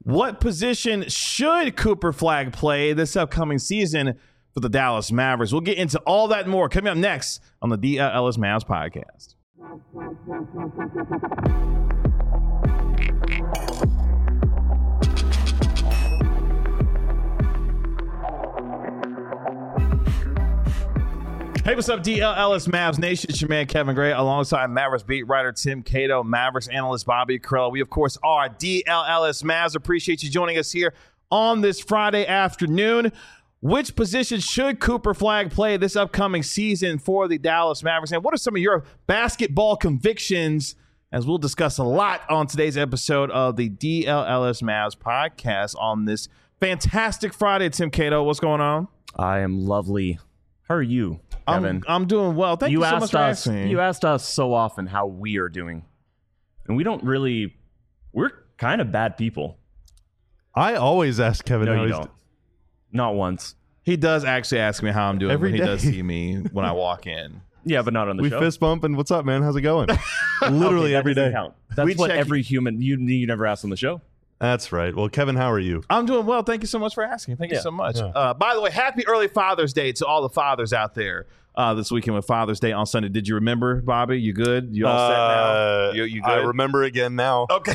What position should Cooper Flagg play this upcoming season for the Dallas Mavericks? We'll get into all that and more coming up next on the DLS Mavs podcast. Hey, what's up, DLS Mavs Nation? It's your man, Kevin Gray, alongside Mavericks beat writer Tim Cato, Mavericks analyst Bobby Krell. We, of course, are DLS Mavs. Appreciate you joining us here on this Friday afternoon. Which position should Cooper Flagg play this upcoming season for the Dallas Mavericks? And what are some of your basketball convictions, as we'll discuss a lot on today's episode of the DLS Mavs podcast on this fantastic Friday. Tim Cato, what's going on? I am lovely. How are you, Kevin? I'm doing well. Thank you so much for asking. You asked us so often how we are doing. And we're kind of bad people. I always ask Kevin No, how you he's don't. Not once. He does actually ask me how I'm doing Every when he day. does see me when I walk in. Yeah, but not on the we show. fist bump and what's up, man? How's it going? Literally Okay, that every doesn't day. count. That's We what check- every human you never ask on the show. That's right. Well, Kevin, how are you? I'm doing well. Thank you so much for asking. Thank you Yeah. so much. Yeah. By the way, happy early Father's Day to all the fathers out there this weekend with Father's Day on Sunday. Did you remember, Bobby? You good? You all set now? You good? I remember again now. Okay.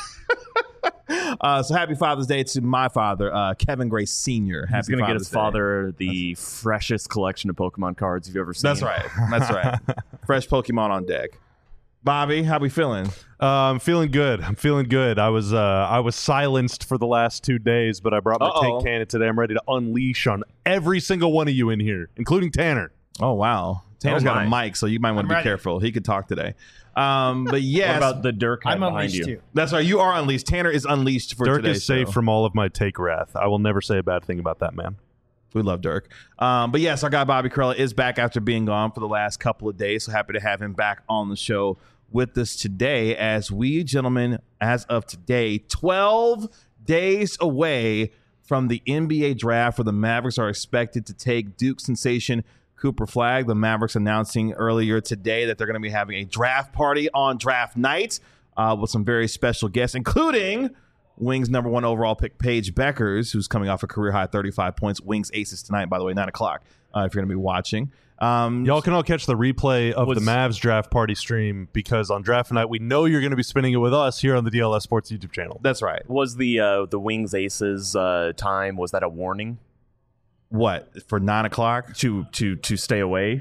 So happy Father's Day to my father, Kevin Gray Sr. Happy He's going to get his Father's Day. father the freshest collection of Pokemon cards you've ever seen. That's right. That's right. Fresh Pokemon on deck. Bobby, how we feeling? I'm feeling good. I was silenced for the last 2 days, but I brought my Uh-oh. tank cannon today. I'm ready to unleash on every single one of you in here, including Tanner. Oh, wow. Tanner's got a mic, so you might want to be careful. He could talk today. But yes. What about the Dirk head I'm behind unleashed you? too. That's right. You are unleashed. Tanner is unleashed for Dirk today's is safe show. from all of my take wrath. I will never say a bad thing about that man. We love Dirk. But yes, our guy Bobby Krella is back after being gone for the last couple of days. So happy to have him back on the show with us today as we, gentlemen, as of today, 12 days away from the NBA draft where the Mavericks are expected to take Duke sensation Cooper Flagg. The Mavericks announcing earlier today that they're going to be having a draft party on draft night with some very special guests, including Wings number 1 overall pick Paige Beckers, who's coming off a career high 35 points. Wings Aces tonight, by the way, 9 o'clock, if you're going to be watching. Y'all can all catch the replay of the Mavs draft party stream because on draft night, we know you're going to be spending it with us here on the DLS Sports YouTube channel. That's right. Was the Wings Aces time, was that a warning What, for 9 o'clock? to stay away?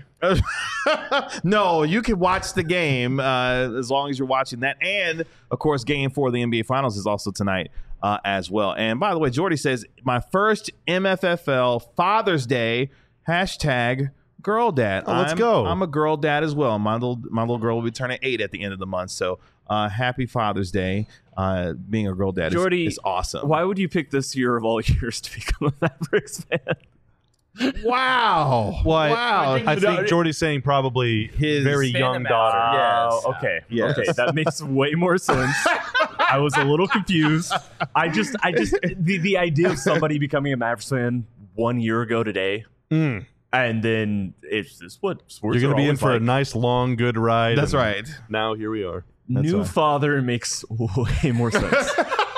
No, you can watch the game as long as you're watching that. And, of course, game 4 of the NBA Finals is also tonight as well. And, by the way, Jordy says, my first MFFL Father's Day, hashtag girl dad. Let's go. I'm a girl dad as well. My little girl will be turning 8 at the end of the month. So happy Father's Day. Being a girl dad Jordy, is awesome. Why would you pick this year of all years to become a Mavericks fan? Wow. Well, Wow. I think Jordy's saying probably His very fan young amount. daughter. Yes. Okay. Yes. Okay. That makes way more sense. I was a little confused. I just the idea of somebody becoming a Mavericks fan 1 year ago today, and then it's what sports You're going are to be in always for a like. nice, long, good ride. That's and right. Now here we are. New right. father makes way more sense.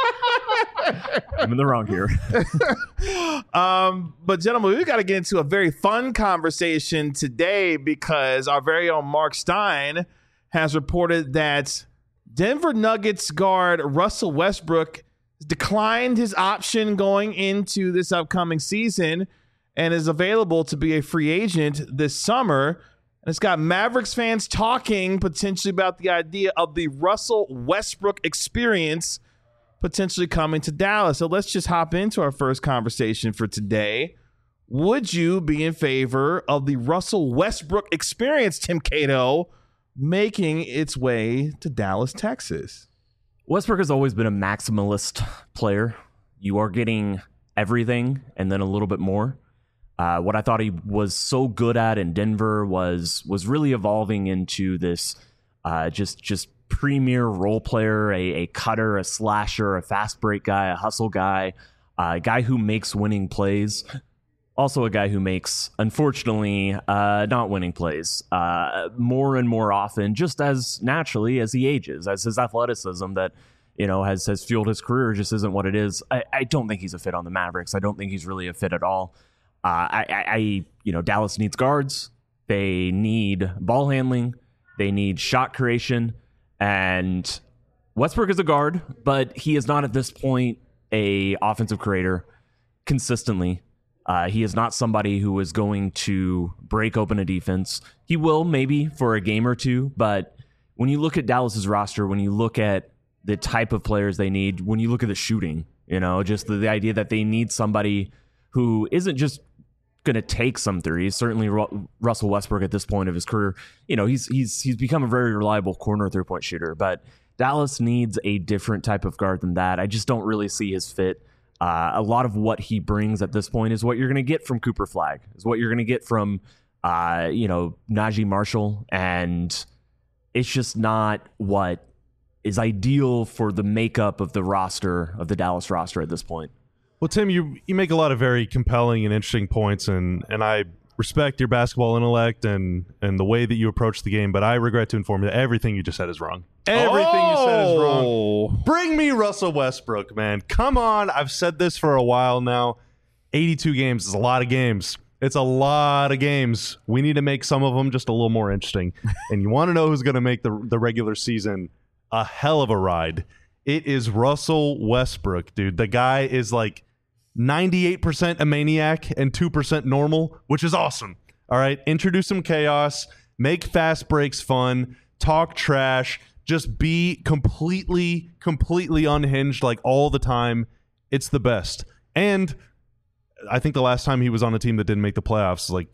I'm in the wrong here. But gentlemen, we got to get into a very fun conversation today because our very own Mark Stein has reported that Denver Nuggets guard Russell Westbrook declined his option going into this upcoming season and is available to be a free agent this summer. And it's got Mavericks fans talking potentially about the idea of the Russell Westbrook experience potentially coming to Dallas. So let's just hop into our first conversation for today. Would you be in favor of the Russell Westbrook experience, Tim Cato, making its way to Dallas, Texas? Westbrook has always been a maximalist player. You are getting everything and then a little bit more. What I thought he was so good at in Denver was really evolving into this just premier role player, a cutter, a slasher, a fast break guy, a hustle guy, a guy who makes winning plays. Also a guy who makes, unfortunately, not winning plays more and more often, just as naturally as he ages, as his athleticism that has fueled his career just isn't what it is. I don't think he's a fit on the Mavericks. I don't think he's really a fit at all. Dallas needs guards. They need ball handling. They need shot creation. And Westbrook is a guard, but he is not at this point a offensive creator consistently. He is not somebody who is going to break open a defense. He will maybe for a game or two, but when you look at Dallas's roster, when you look at the type of players they need, when you look at the shooting, just the idea that they need somebody who isn't just going to take some threes. Certainly Russell Westbrook at this point of his career, he's become a very reliable corner 3-point shooter, but Dallas needs a different type of guard than that. I just don't really see his fit. A lot of what he brings at this point is what you're going to get from Cooper Flagg, is what you're going to get from, Najee Marshall. And it's just not what is ideal for the makeup of the roster, of the Dallas roster at this point. Well, Tim, you make a lot of very compelling and interesting points, and I respect your basketball intellect and the way that you approach the game, but I regret to inform you that everything you just said is wrong. Everything you said is wrong. Bring me Russell Westbrook, man. Come on. I've said this for a while now. 82 games is a lot of games. It's a lot of games. We need to make some of them just a little more interesting. And you want to know who's going to make the regular season a hell of a ride? It is Russell Westbrook, dude. The guy is like 98% a maniac and 2% normal, which is awesome. All right, introduce some chaos, make fast breaks fun, talk trash, just be completely unhinged like all the time. It's the best. And I think the last time he was on a team that didn't make the playoffs was like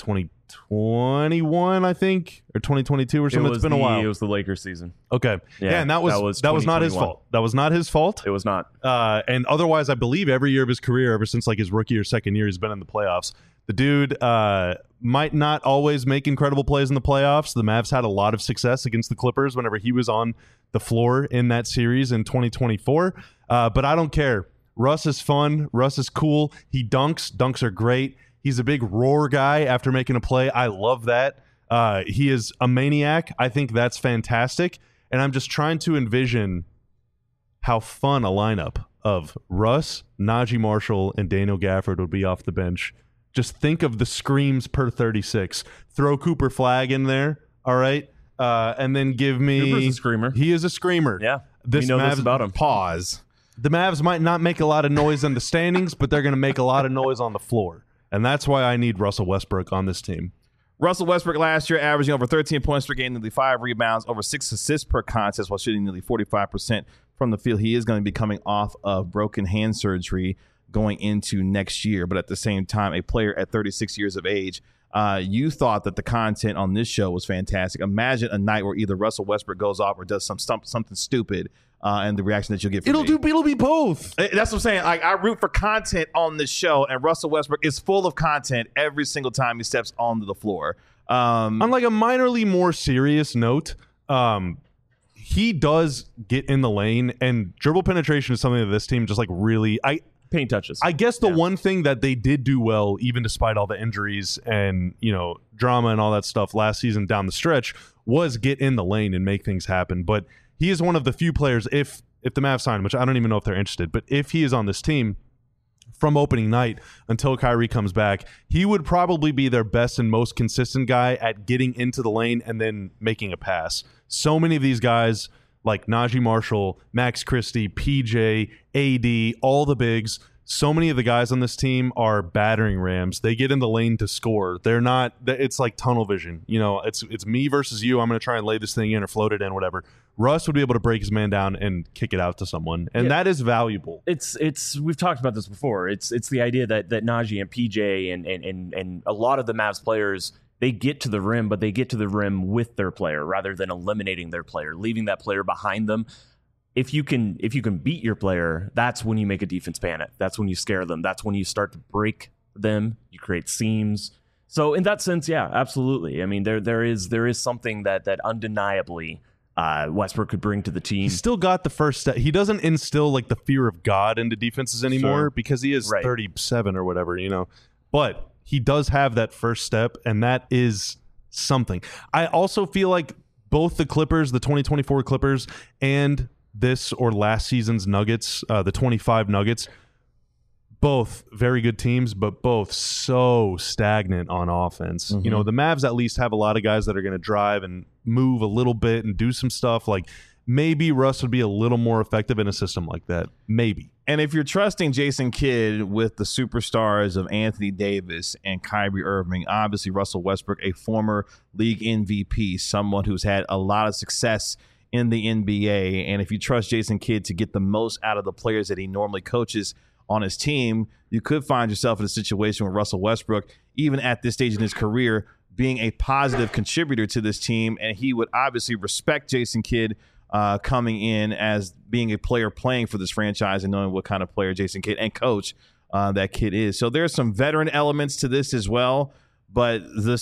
2021, I think, or 2022 or something. It's been a while. It was the Lakers season. Okay. Yeah, and that was not his fault. That was not his fault. It was not. And otherwise, I believe every year of his career, ever since like his rookie or second year, he's been in the playoffs. The dude might not always make incredible plays in the playoffs. The Mavs had a lot of success against the Clippers whenever he was on the floor in that series in 2024. But I don't care. Russ is fun. Russ is cool. He dunks. Dunks are great. He's a big roar guy after making a play. I love that. He is a maniac. I think that's fantastic. And I'm just trying to envision how fun a lineup of Russ, Najee Marshall, and Daniel Gafford would be off the bench. Just think of the screams per 36. Throw Cooper Flagg in there, all right? And then give me... Cooper's a screamer. He is a screamer. Yeah, we know this about him. Pause. The Mavs might not make a lot of noise in the standings, but they're going to make a lot of noise on the floor. And that's why I need Russell Westbrook on this team. Russell Westbrook last year averaging over 13 points per game, nearly 5 rebounds, over 6 assists per contest while shooting nearly 45% from the field. He is going to be coming off of broken hand surgery going into next year. But at the same time, a player at 36 years of age, you thought that the content on this show was fantastic. Imagine a night where either Russell Westbrook goes off or does something stupid. And the reaction that you'll get from it'll be both. That's what I'm saying. Like, I root for content on this show, and Russell Westbrook is full of content every single time he steps onto the floor. On like a minorly more serious note, he does get in the lane, and dribble penetration is something that this team just like really paint touches. I guess the one thing that they did do well, even despite all the injuries and drama and all that stuff last season down the stretch, was get in the lane and make things happen. But he is one of the few players, if the Mavs sign him, which I don't even know if they're interested, but if he is on this team from opening night until Kyrie comes back, he would probably be their best and most consistent guy at getting into the lane and then making a pass. So many of these guys, like Najee Marshall, Max Christie, PJ, AD, all the bigs, so many of the guys on this team are battering rams. They get in the lane to score. They're not. It's like tunnel vision. It's me versus you. I'm going to try and lay this thing in or float it in, whatever. Russ would be able to break his man down and kick it out to someone, and that is valuable. It's we've talked about this before. It's the idea that Najee and PJ and a lot of the Mavs players, they get to the rim, but they get to the rim with their player rather than eliminating their player, leaving that player behind them. If you can beat your player, that's when you make a defense panic. That's when you scare them. That's when you start to break them. You create seams. So in that sense, yeah, absolutely. I mean, there is something that undeniably Westbrook could bring to the team. He's still got the first step. He doesn't instill like the fear of God into defenses anymore because he is 37 or whatever, But he does have that first step, and that is something. I also feel like both the Clippers, the 2024 Clippers, and this or last season's Nuggets, the 25 Nuggets. Both very good teams, but both so stagnant on offense. Mm-hmm. You know, the Mavs at least have a lot of guys that are going to drive and move a little bit and do some stuff. Like, maybe Russ would be a little more effective in a system like that. Maybe. And if you're trusting Jason Kidd with the superstars of Anthony Davis and Kyrie Irving, obviously Russell Westbrook, a former league MVP, someone who's had a lot of success in the NBA. And if you trust Jason Kidd to get the most out of the players that he normally coaches on his team, you could find yourself in a situation where Russell Westbrook, even at this stage in his career, being a positive contributor to this team. And he would obviously respect Jason Kidd coming in as being a player playing for this franchise and knowing what kind of player Jason Kidd and coach that kid is. So there's some veteran elements to this as well. But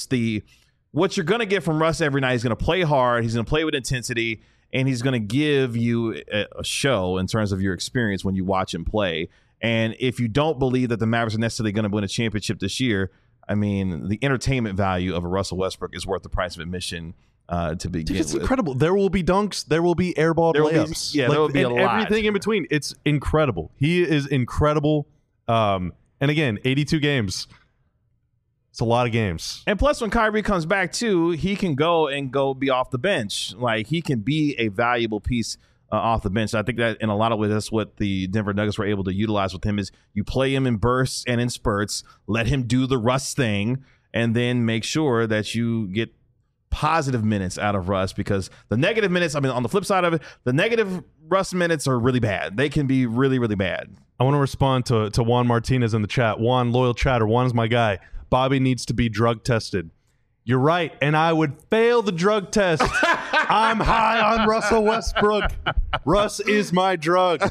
what you're going to get from Russ every night, he's going to play hard, he's going to play with intensity, and he's going to give you a show in terms of your experience when you watch him play. And if you don't believe that the Mavericks are necessarily going to win a championship this year, I mean, the entertainment value of a Russell Westbrook is worth the price of admission to begin It's with. incredible. There will be dunks. There will be airball layups. There will be a lot. Everything in between. It's incredible. He is incredible. And again, 82 games. It's a lot of games. And plus, when Kyrie comes back too, he can go be off the bench. Like, he can be a valuable piece off the bench. I think that in a lot of ways, that's what the Denver Nuggets were able to utilize with him is you play him in bursts and in spurts, let him do the Russ thing, and then make sure that you get positive minutes out of Russ, because the negative minutes, I mean, on the flip side of it, the negative Russ minutes are really bad. They can be really, really bad. I want to respond to Juan Martinez in the chat. Juan, loyal chatter. Juan's my guy. Bobby needs to be drug tested. You're right, and I would fail the drug test. I'm high on Russell Westbrook. Russ is my drug.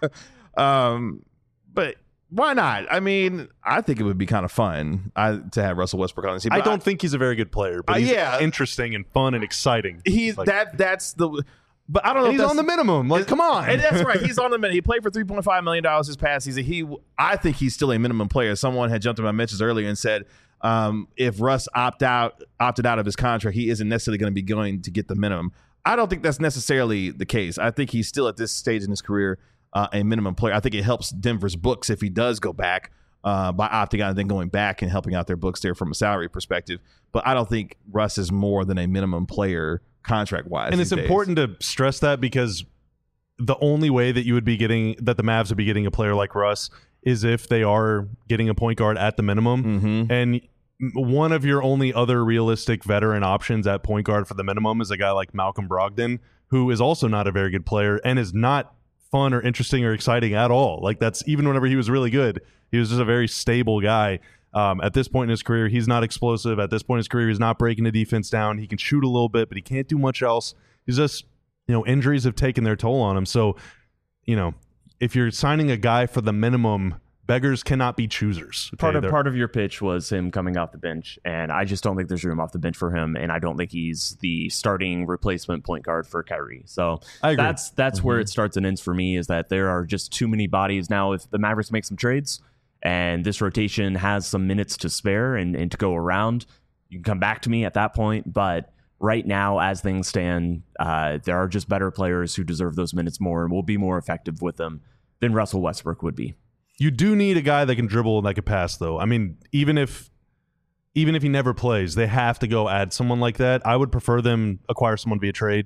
But why not? I mean, I think it would be kind of fun to have Russell Westbrook on the team. I don't think he's a very good player, but he's interesting and fun and exciting. He's like, that's the. But I don't know. And he's on the minimum. Like, come on. And that's right. He's on the minimum. He played for $3.5 million this past season. I think he's still a minimum player. Someone had jumped in my mentions earlier and said, if Russ opted out of his contract, he isn't necessarily going to be going to get the minimum. I don't think that's necessarily the case. I think he's still at this stage in his career a minimum player. I think it helps Denver's books if he does go back by opting out and then going back and helping out their books there from a salary perspective. But I don't think Russ is more than a minimum player contract-wise. And it's important to stress that, because the only way that you would be getting, that the Mavs would be getting a player like Russ, is if they are getting a point guard at the minimum. Mm-hmm. And one of your only other realistic veteran options at point guard for the minimum is a guy like Malcolm Brogdon, who is also not a very good player and is not fun or interesting or exciting at all. Like, that's, even whenever he was really good, he was just a very stable guy. At this point in his career, he's not explosive. At this point in his career, he's not breaking the defense down. He can shoot a little bit, but he can't do much else. He's just, injuries have taken their toll on him. So, if you're signing a guy for the minimum, beggars cannot be choosers. Okay? Part of your pitch was him coming off the bench, and I just don't think there's room off the bench for him, and I don't think he's the starting replacement point guard for Kyrie. So I agree. That's where it starts and ends for me, is that there are just too many bodies now. If the Mavericks make some trades and this rotation has some minutes to spare and to go around, you can come back to me at that point. But right now, as things stand, there are just better players who deserve those minutes more and will be more effective with them than Russell Westbrook would be. You do need a guy that can dribble and that can pass, though. I mean, even if he never plays, they have to go add someone like that. I would prefer them acquire someone via trade,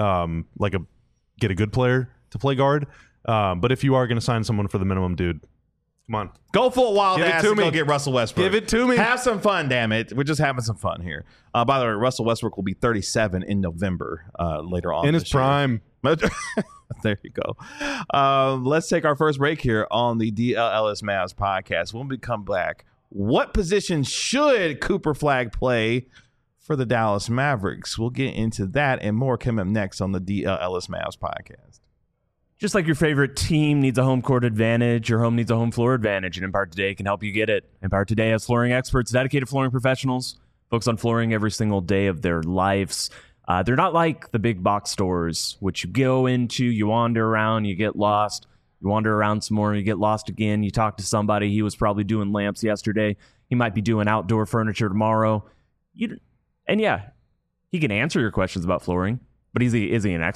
get a good player to play guard. But if you are going to sign someone for the minimum, dude, come on. Go full wild Give it ass to and go me. get Russell Westbrook. Give it to me. Have some fun, damn it. We're just having some fun here. By the way, Russell Westbrook will be 37 in November later on. In his prime. There you go. Let's take our first break here on the DLLS Mavs podcast. When we come back, what position should Cooper Flagg play for the Dallas Mavericks? We'll get into that and more coming up next on the DLLS Mavs podcast. Just like your favorite team needs a home court advantage, your home needs a home floor advantage, and Empire Today can help you get it. Empire Today has flooring experts, dedicated flooring professionals, focus on flooring every single day of their lives. They're not like the big box stores, which you go into, you wander around, you get lost, you wander around some more, you get lost again, you talk to somebody, he was probably doing lamps yesterday, he might be doing outdoor furniture tomorrow. And yeah, he can answer your questions about flooring, but is he an expert?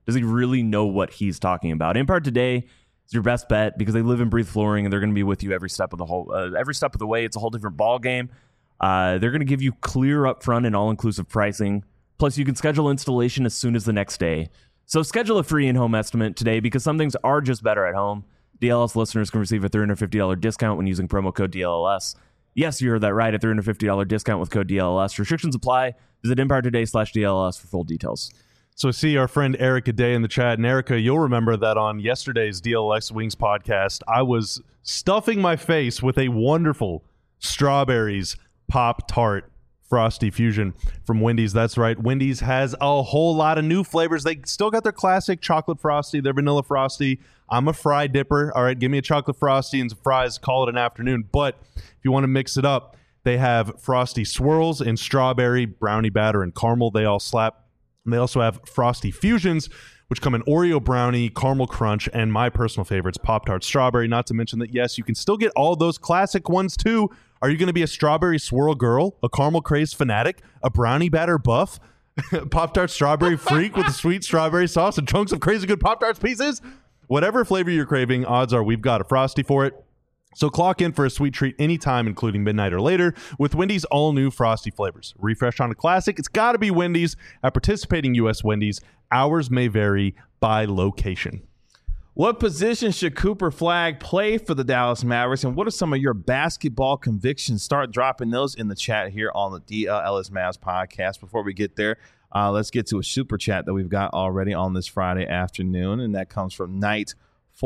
Does he really know what he's talking about? Empire Today is your best bet because they live and breathe flooring, and they're going to be with you every step of the way. It's a whole different ball game. They're going to give you clear upfront and all-inclusive pricing. Plus, you can schedule installation as soon as the next day. So schedule a free in-home estimate today because some things are just better at home. DLS listeners can receive a $350 discount when using promo code DLS. Yes, you heard that right, a $350 discount with code DLS. Restrictions apply. Visit EmpireToday.com/DLS for full details. So I see our friend Erica Day in the chat. And Erica, you'll remember that on yesterday's DLX Wings podcast, I was stuffing my face with a wonderful Strawberries Pop-Tart Frosty Fusion from Wendy's. That's right. Wendy's has a whole lot of new flavors. They still got their classic chocolate frosty, their vanilla frosty. I'm a fry dipper. All right, give me a chocolate frosty and some fries. Call it an afternoon. But if you want to mix it up, they have frosty swirls in strawberry, brownie batter, and caramel. They all slap. And they also have frosty fusions, which come in Oreo brownie, caramel crunch, and my personal favorites, Pop-Tart strawberry. Not to mention that, yes, you can still get all those classic ones too. Are you going to be a strawberry swirl girl, a caramel craze fanatic, a brownie batter buff, Pop-Tart strawberry freak with a sweet strawberry sauce and chunks of crazy good Pop-Tarts pieces? Whatever flavor you're craving, odds are we've got a Frosty for it. So clock in for a sweet treat anytime, including midnight or later, with Wendy's all-new Frosty flavors. Refresh on a classic, it's got to be Wendy's. At participating U.S. Wendy's, hours may vary by location. What position should Cooper Flagg play for the Dallas Mavericks, and what are some of your basketball convictions? Start dropping those in the chat here on the DLS Mavs podcast. Before we get there, let's get to a super chat that we've got already on this Friday afternoon, and that comes from Knight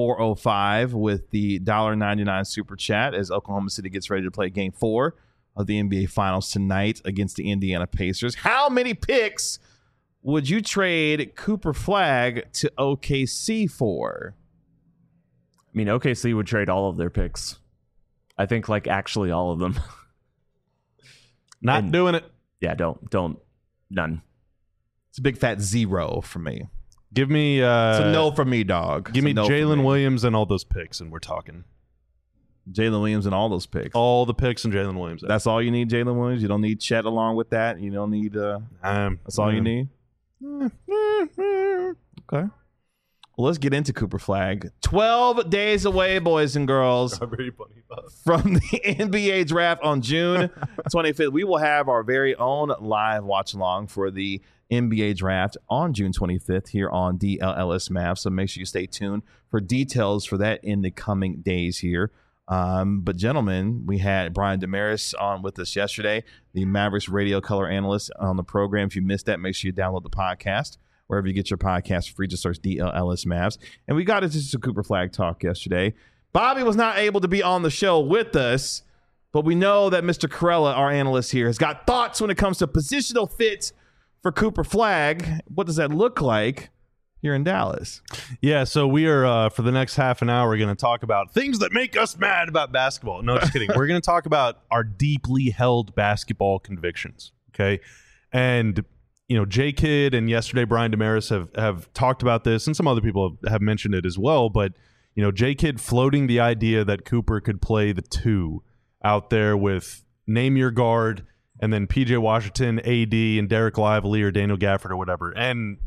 405 with the $1.99 super chat as Oklahoma City gets ready to play Game 4 of the NBA Finals tonight against the Indiana Pacers. How many picks would you trade Cooper Flagg to OKC for? I mean, OKC would trade all of their picks. I think, like, actually all of them. Not doing it. Yeah, don't. None. It's a big fat zero for me. Give me it's a no for me, dog. Give me Jalen Williams and all those picks, and we're talking. Jalen Williams and all those picks. All the picks and Jalen Williams. That's all you need, Jalen Williams? You don't need Chet along with that? You don't need that's all you need? Okay. Well, let's get into Cooper Flagg. 12 days away, boys and girls, from the NBA draft on June 25th. We will have our very own live watch-along for the NBA draft on June 25th here on DLS Mavs. So make sure you stay tuned for details for that in the coming days here. But gentlemen, we had Brian Damaris on with us yesterday, the Mavericks radio color analyst on the program. If you missed that, make sure you download the podcast wherever you get your podcast for free. Just search DLS Mavs. And we got into some Cooper Flagg talk yesterday. Bobby was not able to be on the show with us, but we know that Mr. Corella, our analyst here, has got thoughts when it comes to positional fit for Cooper Flagg. What does that look like here in Dallas? Yeah, so we are, for the next half an hour, going to talk about things that make us mad about basketball. No, just kidding. We're going to talk about our deeply held basketball convictions, okay? And, you know, J-Kid and yesterday Brian Damaris have talked about this, and some other people have mentioned it as well, but, you know, J-Kid floating the idea that Cooper could play the two out there with name your guard, and then PJ Washington, AD, and Derek Lively or Daniel Gafford or whatever. And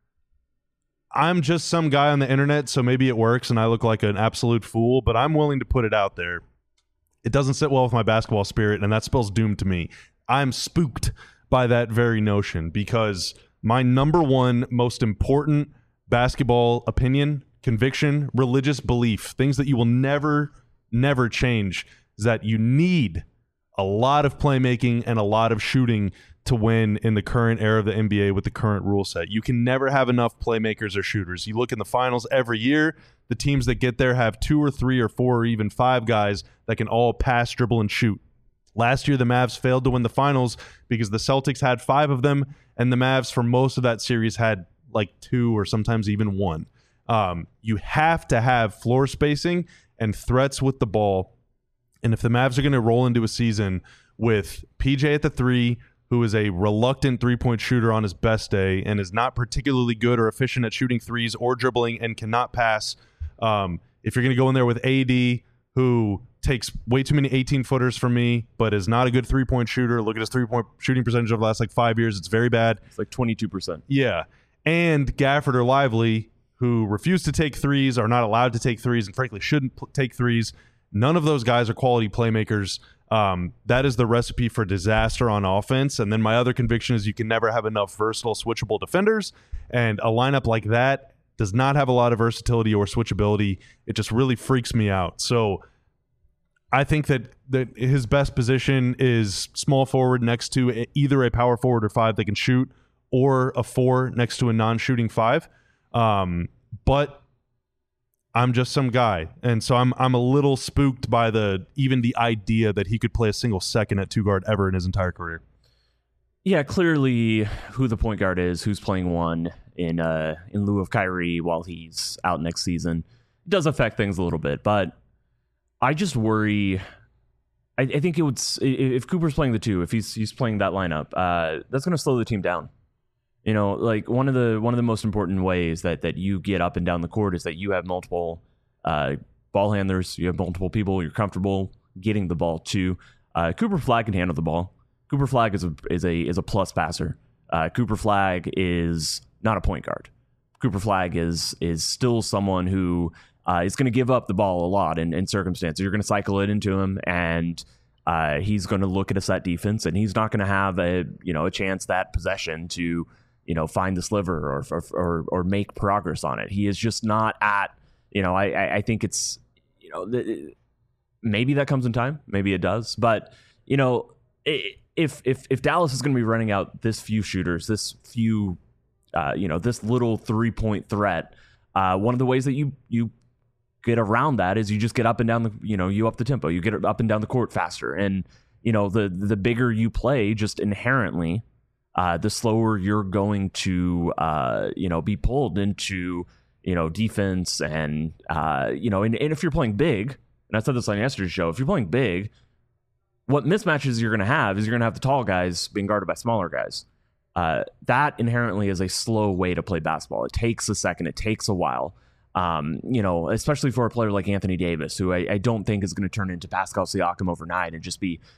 I'm just some guy on the internet, so maybe it works and I look like an absolute fool, but I'm willing to put it out there. It doesn't sit well with my basketball spirit, and that spells doom to me. I'm spooked by that very notion because my number one most important basketball opinion, conviction, religious belief, things that you will never change, is that you need a lot of playmaking and a lot of shooting to win in the current era of the NBA with the current rule set. You can never have enough playmakers or shooters. You look in the finals every year, the teams that get there have 2 or 3 or 4 or even 5 guys that can all pass, dribble, and shoot. Last year, the Mavs failed to win the finals because the Celtics had 5 of them, and the Mavs for most of that series had like 2 or sometimes even 1. You have to have floor spacing and threats with the ball. And if the Mavs are going to roll into a season with PJ at the 3, who is a reluctant three-point shooter on his best day and is not particularly good or efficient at shooting threes or dribbling and cannot pass, if you're going to go in there with AD, who takes way too many 18-footers from me but is not a good three-point shooter, look at his three-point shooting percentage over the last 5 years. It's very bad. It's like 22%. Yeah. and Gafford or Lively, who refuse to take threes, are not allowed to take threes, and frankly shouldn't take threes. None of those guys are quality playmakers. That is the recipe for disaster on offense. And then my other conviction is you can never have enough versatile, switchable defenders. And a lineup like that does not have a lot of versatility or switchability. It just really freaks me out. So I think that his best position is small forward next to either a power forward or 5 that can shoot, or a 4 next to a non-shooting 5. But I'm just some guy, and so I'm a little spooked by even the idea that he could play a single second at 2 guard ever in his entire career. Yeah, clearly who the point guard is, who's playing 1 in lieu of Kyrie while he's out next season, does affect things a little bit. But I just worry. I think it would, if Cooper's playing the 2, if he's playing that lineup, that's going to slow the team down. You know, like one of the most important ways that you get up and down the court is that you have multiple ball handlers, you have multiple people you're comfortable getting the ball to. Cooper Flagg can handle the ball. Cooper Flagg is a plus passer. Cooper Flagg is not a point guard. Cooper Flagg is still someone who is going to give up the ball a lot in circumstances. You're going to cycle it into him, and he's going to look at a set defense, and he's not going to have a chance that possession to find the sliver or make progress on it. He is just not at, I think it's, maybe that comes in time. Maybe it does. But, if Dallas is going to be running out this few shooters, this few, this little 3-point threat, one of the ways that you get around that is you just get up and down you up the tempo, you get up and down the court faster. And, the bigger you play just inherently, the slower you're going to, be pulled into, defense and if you're playing big, and I said this on yesterday's show, if you're playing big, what mismatches you're going to have is you're going to have the tall guys being guarded by smaller guys. That inherently is a slow way to play basketball. It takes a second. It takes a while. Especially for a player like Anthony Davis, who I don't think is going to turn into Pascal Siakam overnight and just be,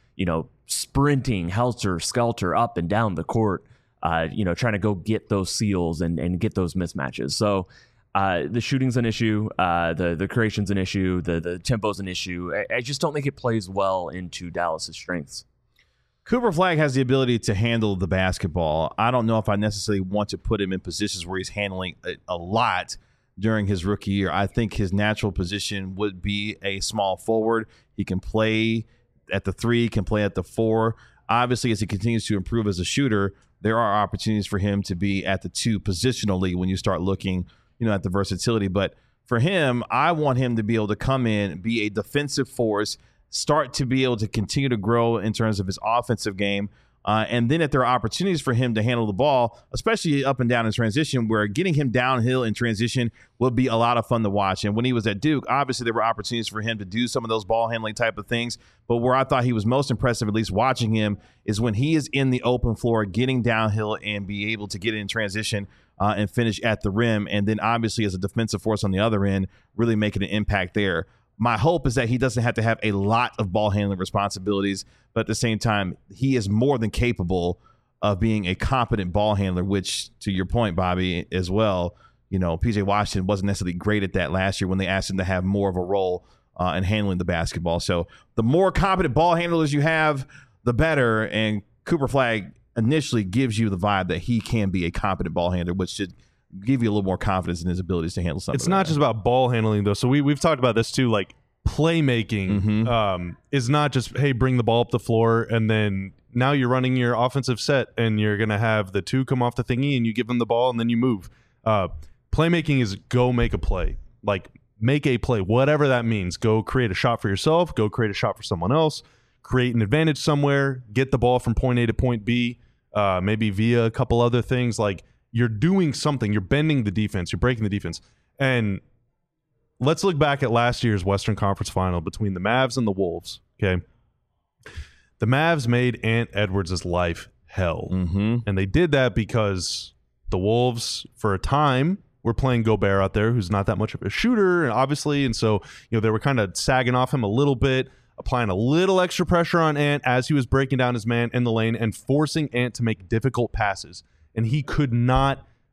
sprinting helter-skelter up and down the court, trying to go get those seals and get those mismatches. So the shooting's an issue, the creation's an issue, the tempo's an issue. I just don't think it plays well into Dallas's strengths. Cooper Flagg has the ability to handle the basketball. I don't know if I necessarily want to put him in positions where he's handling a lot during his rookie year. I think his natural position would be a small forward. He can play at the 3, can play at the 4. Obviously, as he continues to improve as a shooter, there are opportunities for him to be at the 2 positionally when you start looking, at the versatility. But for him, I want him to be able to come in, be a defensive force, start to be able to continue to grow in terms of his offensive game. And then if there are opportunities for him to handle the ball, especially up and down in transition, where getting him downhill in transition will be a lot of fun to watch. And when he was at Duke, obviously there were opportunities for him to do some of those ball handling type of things. But where I thought he was most impressive, at least watching him, is when he is in the open floor, getting downhill and be able to get in transition and finish at the rim. And then obviously as a defensive force on the other end, really making an impact there. My hope is that he doesn't have to have a lot of ball handling responsibilities, but at the same time, he is more than capable of being a competent ball handler, which, to your point, Bobby, as well, PJ Washington wasn't necessarily great at that last year when they asked him to have more of a role in handling the basketball. So the more competent ball handlers you have, the better. And Cooper Flagg initially gives you the vibe that he can be a competent ball handler, which should give you a little more confidence in his abilities to handle something. It's not just about ball handling, though. So we've talked about this too. Like playmaking is not just, hey, bring the ball up the floor, and then now you're running your offensive set, and you're going to have the 2 come off the thingy, and you give them the ball, and then you move. Playmaking is go make a play. Like make a play, whatever that means. Go create a shot for yourself. Go create a shot for someone else. Create an advantage somewhere. Get the ball from point A to point B, maybe via a couple other things. Like, you're doing something. You're bending the defense. You're breaking the defense. And let's look back at last year's Western Conference Final between the Mavs and the Wolves. Okay, the Mavs made Ant Edwards' life hell, and they did that because the Wolves, for a time, were playing Gobert out there, who's not that much of a shooter, obviously, and so they were kind of sagging off him a little bit, applying a little extra pressure on Ant as he was breaking down his man in the lane and forcing Ant to make difficult passes. And he could not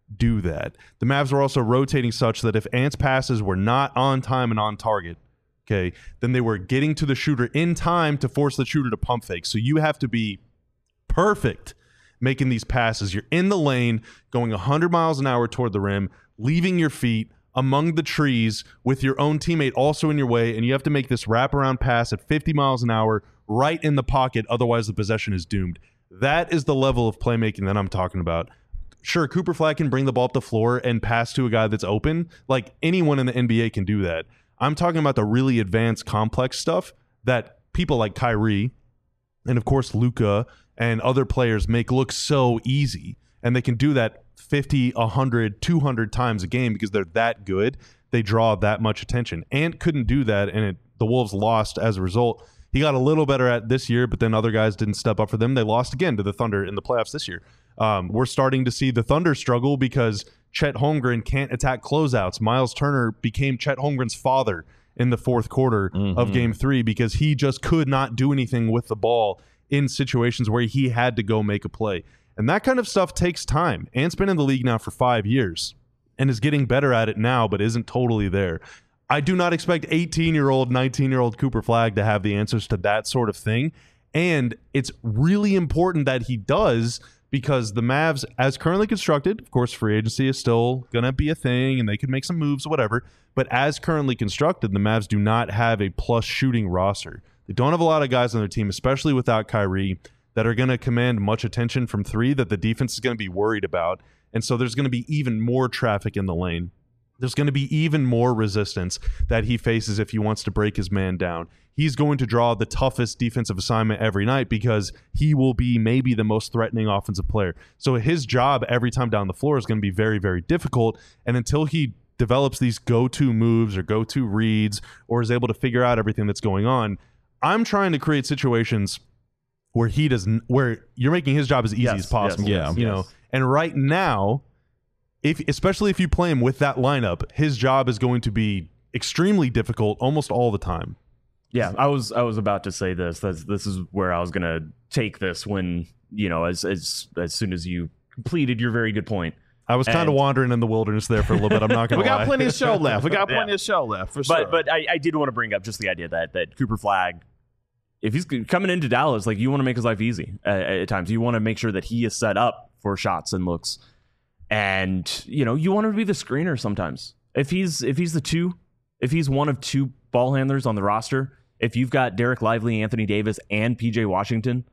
do that. The Mavs were also rotating such that if Ant's passes were not on time and on target, okay, then they were getting to the shooter in time to force the shooter to pump fake. So you have to be perfect making these passes. You're in the lane, going 100 miles an hour toward the rim, leaving your feet among the trees with your own teammate also in your way, and you have to make this wraparound pass at 50 miles an hour right in the pocket, otherwise the possession is doomed. That is the level of playmaking that I'm talking about. Sure, Cooper Flag can bring the ball up the floor and pass to a guy that's open. Like, anyone in the NBA can do that. I'm talking about the really advanced, complex stuff that people like Kyrie and, of course, Luka and other players make look so easy. And they can do that 50, 100, 200 times a game because they're that good. They draw that much attention. Ant couldn't do that, and the Wolves lost as a result. He got a little better at this year, but then other guys didn't step up for them. They lost again to the Thunder in the playoffs this year. We're starting to see the Thunder struggle because Chet Holmgren can't attack closeouts. Miles Turner became Chet Holmgren's father in the fourth quarter of Game 3 because he just could not do anything with the ball in situations where he had to go make a play. And that kind of stuff takes time. Ant's been in the league now for 5 years and is getting better at it now, but isn't totally there. I do not expect 18-year-old, 19-year-old Cooper Flag to have the answers to that sort of thing. And it's really important that he does, because the Mavs, as currently constructed, of course, free agency is still going to be a thing and they could make some moves, whatever. But as currently constructed, the Mavs do not have a plus shooting roster. They don't have a lot of guys on their team, especially without Kyrie, that are going to command much attention from three that the defense is going to be worried about. And so there's going to be even more traffic in the lane. There's going to be even more resistance that he faces if he wants to break his man down. He's going to draw the toughest defensive assignment every night because he will be maybe the most threatening offensive player. So his job every time down the floor is going to be very, very difficult. And until he develops these go-to moves or go-to reads or is able to figure out everything that's going on, I'm trying to create situations where where you're making his job as easy as possible. You know, and right now, especially if you play him with that lineup, his job is going to be extremely difficult almost all the time. Yeah, I was about to say this. This is where I was going to take this when, you know, as soon as you completed your very good point. I was kind of wandering in the wilderness there for a little bit. I'm not going to lie. We got plenty of show left. For sure. But I did want to bring up just the idea that Cooper Flag, if he's coming into Dallas, like, you want to make his life easy at times. You want to make sure that he is set up for shots and looks. And, you know, you want him to be the screener sometimes. If he's the two, if he's one of two ball handlers on the roster, if you've got Derek Lively, Anthony Davis, and PJ Washington,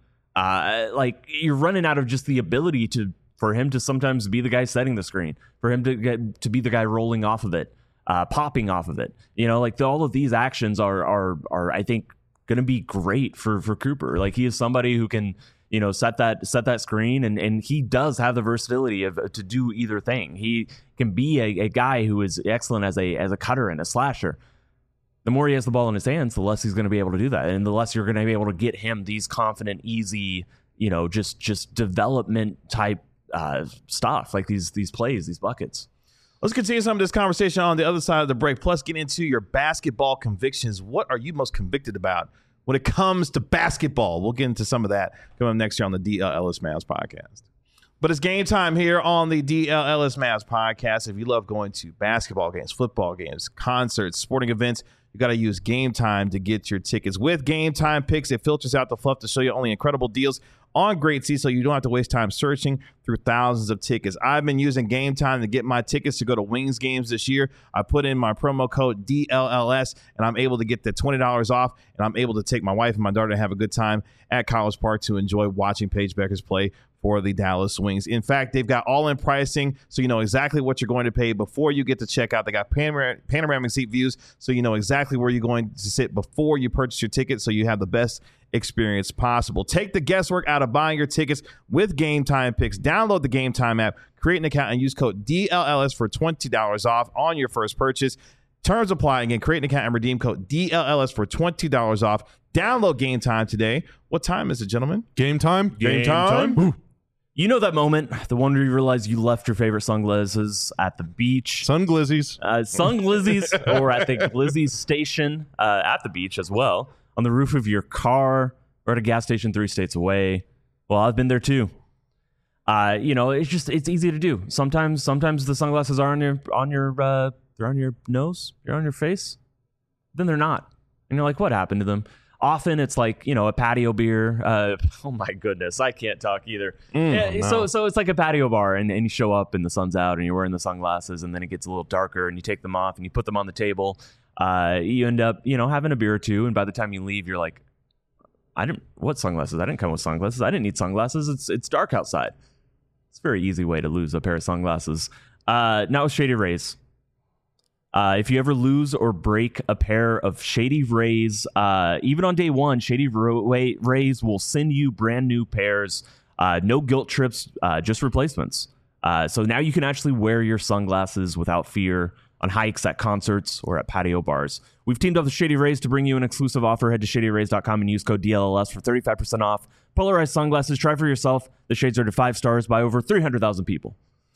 like, you're running out of just the ability for him to sometimes be the guy setting the screen, for him to be the guy rolling off of it, popping off of it. You know, like, all of these actions are I think going to be great for Cooper. Like, he is somebody who can, you know, set that screen, and he does have the versatility to do either thing. He can be a guy who is excellent as a cutter and a slasher. The more he has the ball in his hands, the less he's going to be able to do that, and the less you're going to be able to get him these confident, easy, you know, just development type stuff, like these plays, these buckets. Let's continue some of this conversation on the other side of the break. Plus, get into your basketball convictions. What are you most convicted about when it comes to basketball? We'll get into some of that coming up next year on the DL Ellis Mavs podcast. But it's game time here on the DL Ellis Mavs podcast. If you love going to basketball games, football games, concerts, sporting events, you got to use Game Time to get your tickets. With Game Time Picks, it filters out the fluff to show you only incredible deals on great seats, so you don't have to waste time searching through thousands of tickets. I've been using Game Time to get my tickets to go to Wings games this year. I put in my promo code DLLS, and I'm able to get the $20 off, and I'm able to take my wife and my daughter to have a good time at College Park to enjoy watching Paige Beckers play for the Dallas Wings. In fact, they've got all-in pricing, so you know exactly what you're going to pay before you get to checkout. They got panoramic seat views, so you know exactly where you're going to sit before you purchase your ticket, so you have the best experience possible. Take the guesswork out of buying your tickets with Game Time Picks. Download the Game Time app, create an account, and use code DLLS for $20 off on your first purchase. Terms apply. Again, create an account and redeem code DLLS for $20 off. Download Game Time today. What time is it, gentlemen? Game time? Game time. You know that moment, the one where you realize you left your favorite sunglasses at the beach. Sun glizzies. Or at the Glizzies station at the beach as well, on the roof of your car, or at a gas station 3 states away. Well, I've been there too. It's easy to do. Sometimes the sunglasses are they're on your nose, they're on your face, then they're not, and you're like, what happened to them? Often it's like, a patio beer. Oh my goodness, I can't talk either. No. So it's like a patio bar, and you show up and the sun's out, and you're wearing the sunglasses, and then it gets a little darker, and you take them off and you put them on the table. You end up having a beer or two, and by the time you leave, you're like, what sunglasses? I didn't come with sunglasses. I didn't need sunglasses. It's dark outside. It's a very easy way to lose a pair of sunglasses. Now with Shady Rays. If you ever lose or break a pair of Shady Rays, even on day one, Shady Rays will send you brand new pairs. No guilt trips, just replacements. So now you can actually wear your sunglasses without fear on hikes, at concerts, or at patio bars. We've teamed up with Shady Rays to bring you an exclusive offer. Head to shadyrays.com and use code DLLS for 35% off. Polarized sunglasses. Try for yourself. The shades are rated 5 stars by over 300,000 people.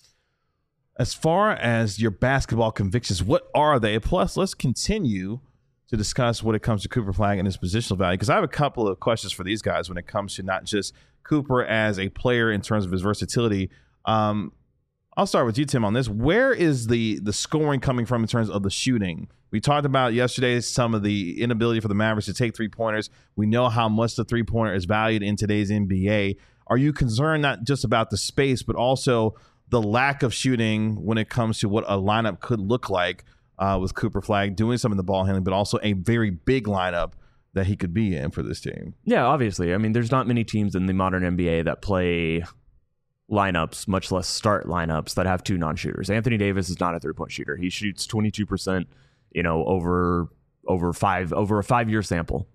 As far as your basketball convictions, what are they? Plus, let's continue to discuss when it comes to Cooper Flagg and his positional value, because I have a couple of questions for these guys when it comes to not just Cooper as a player in terms of his versatility. I'll start with you, Tim, on this. Where is the scoring coming from in terms of the shooting? We talked about yesterday some of the inability for the Mavericks to take three-pointers. We know how much the three-pointer is valued in today's NBA. Are you concerned not just about the space, but also the lack of shooting when it comes to what a lineup could look like with Cooper Flagg doing some of the ball handling, but also a very big lineup that he could be in for this team? Yeah, obviously. I mean, there's not many teams in the modern NBA that play lineups, much less start lineups, that have two non-shooters. Anthony Davis is not a three-point shooter. He shoots 22%, over a 5-year sample.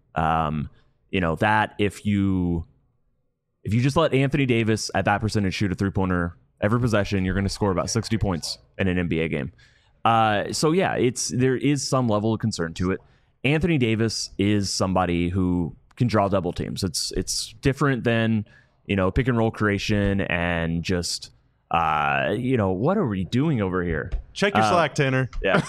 That if you just let Anthony Davis at that percentage shoot a three-pointer every possession, you're going to score about 60 points in an NBA game. There is some level of concern to it. Anthony Davis is somebody who can draw double teams. It's different than pick and roll creation and just what are we doing over here? Check your Slack, Tanner. Yeah.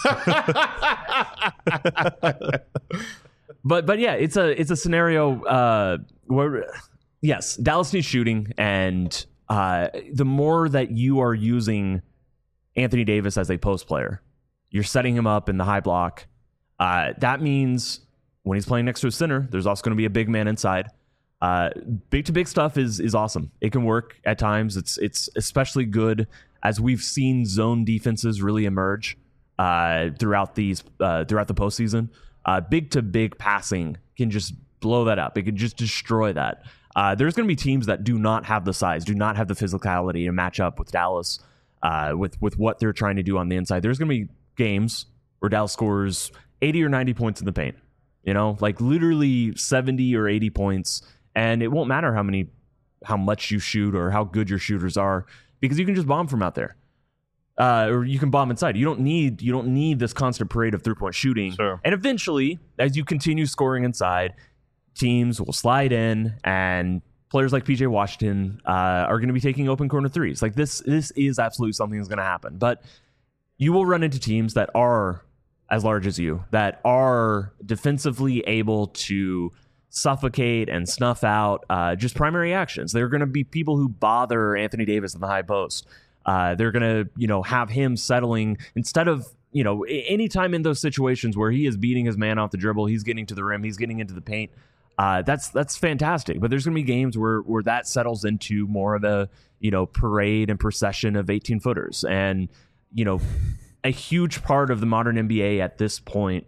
but yeah, it's a scenario where yes, Dallas needs shooting, and the more that you are using Anthony Davis as a post player, you're setting him up in the high block. That means when he's playing next to a center, there's also going to be a big man inside. Big to big stuff is awesome. It can work at times. It's especially good as we've seen zone defenses really emerge throughout the postseason. Big to big passing can just blow that up. It can just destroy that. There's going to be teams that do not have the size, do not have the physicality to match up with Dallas with what they're trying to do on the inside. There's going to be games where Dallas scores 80 or 90 points in the paint. Like literally 70 or 80 points. And it won't matter how much you shoot or how good your shooters are, because you can just bomb from out there, or you can bomb inside. You don't need this constant parade of 3-point shooting. Sure. And eventually, as you continue scoring inside, teams will slide in, and players like PJ Washington are going to be taking open corner threes. Like this is absolutely something that's going to happen. But you will run into teams that are as large as you, that are defensively able to suffocate and snuff out just primary actions. There are going to be people who bother Anthony Davis in the high post. They're going to, have him settling instead of, anytime in those situations where he is beating his man off the dribble, he's getting to the rim, he's getting into the paint. That's fantastic. But there's going to be games where that settles into more of a, parade and procession of 18-footers. And, a huge part of the modern NBA at this point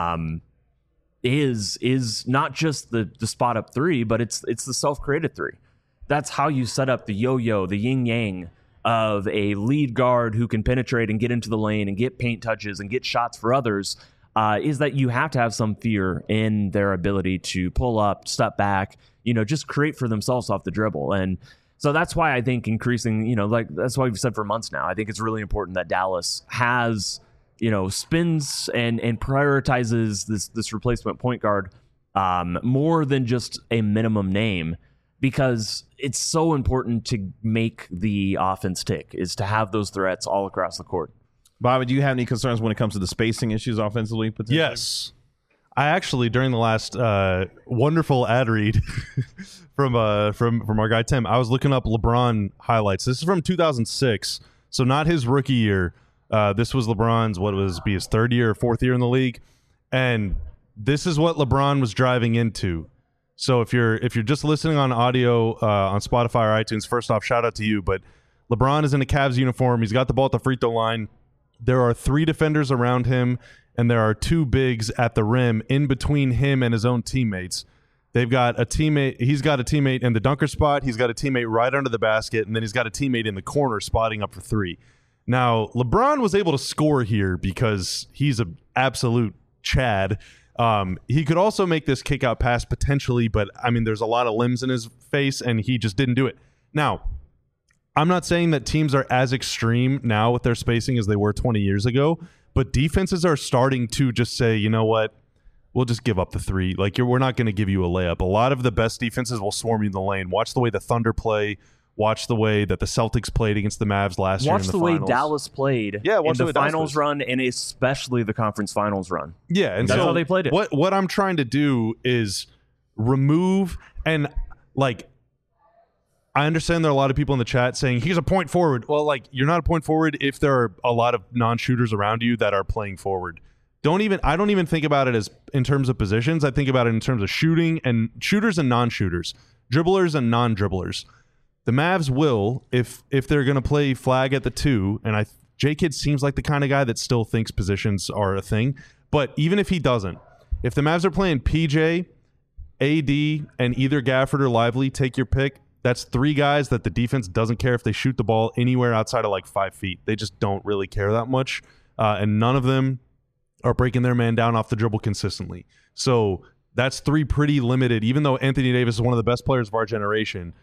is not just the spot up three, but it's the self-created three. That's how you set up the yo-yo, the yin-yang of a lead guard who can penetrate and get into the lane and get paint touches and get shots for others, is that you have to have some fear in their ability to pull up, step back, just create for themselves off the dribble. And so that's why I think increasing, that's why we've said for months now, I think it's really important that Dallas has, spins and prioritizes this replacement point guard more than just a minimum name, because it's so important to make the offense tick, is to have those threats all across the court. Bobby, do you have any concerns when it comes to the spacing issues offensively? Yes. I actually, during the last wonderful ad read from our guy Tim, I was looking up LeBron highlights. This is from 2006, so not his rookie year. This was LeBron's his third year or fourth year in the league, and this is what LeBron was driving into. So if you're just listening on audio on Spotify or iTunes, first off, shout out to you. But LeBron is in a Cavs uniform. He's got the ball at the free throw line. There are 3 defenders around him, and there are 2 bigs at the rim in between him and his own teammates. They've got a teammate. He's got a teammate in the dunker spot. He's got a teammate right under the basket, and then he's got a teammate in the corner spotting up for 3. Now, LeBron was able to score here because he's an absolute Chad. He could also make this kick out pass potentially, but I mean, there's a lot of limbs in his face, and he just didn't do it. Now, I'm not saying that teams are as extreme now with their spacing as they were 20 years ago, but defenses are starting to just say, you know what, we'll just give up the 3. Like, we're not going to give you a layup. A lot of the best defenses will swarm you in the lane. Watch the way the Thunder play. Watch the way that the Celtics played against the Mavs last year in the finals. Watch the way Dallas played in the finals run, and especially the conference finals run. Yeah, and that's so how they played it. What I'm trying to do is remove, and like, I understand there are a lot of people in the chat saying he's a point forward. Well, like, you're not a point forward if there are a lot of non-shooters around you that are playing forward. I don't even think about it as in terms of positions. I think about it in terms of shooting and shooters and non-shooters, dribblers and non-dribblers. The Mavs will, if they're going to play flag at the 2, and J-Kidd seems like the kind of guy that still thinks positions are a thing. But even if he doesn't, if the Mavs are playing PJ, AD, and either Gafford or Lively, take your pick. That's 3 guys that the defense doesn't care if they shoot the ball anywhere outside of like 5 feet. They just don't really care that much. And none of them are breaking their man down off the dribble consistently. So that's 3 pretty limited, even though Anthony Davis is one of the best players of our generation.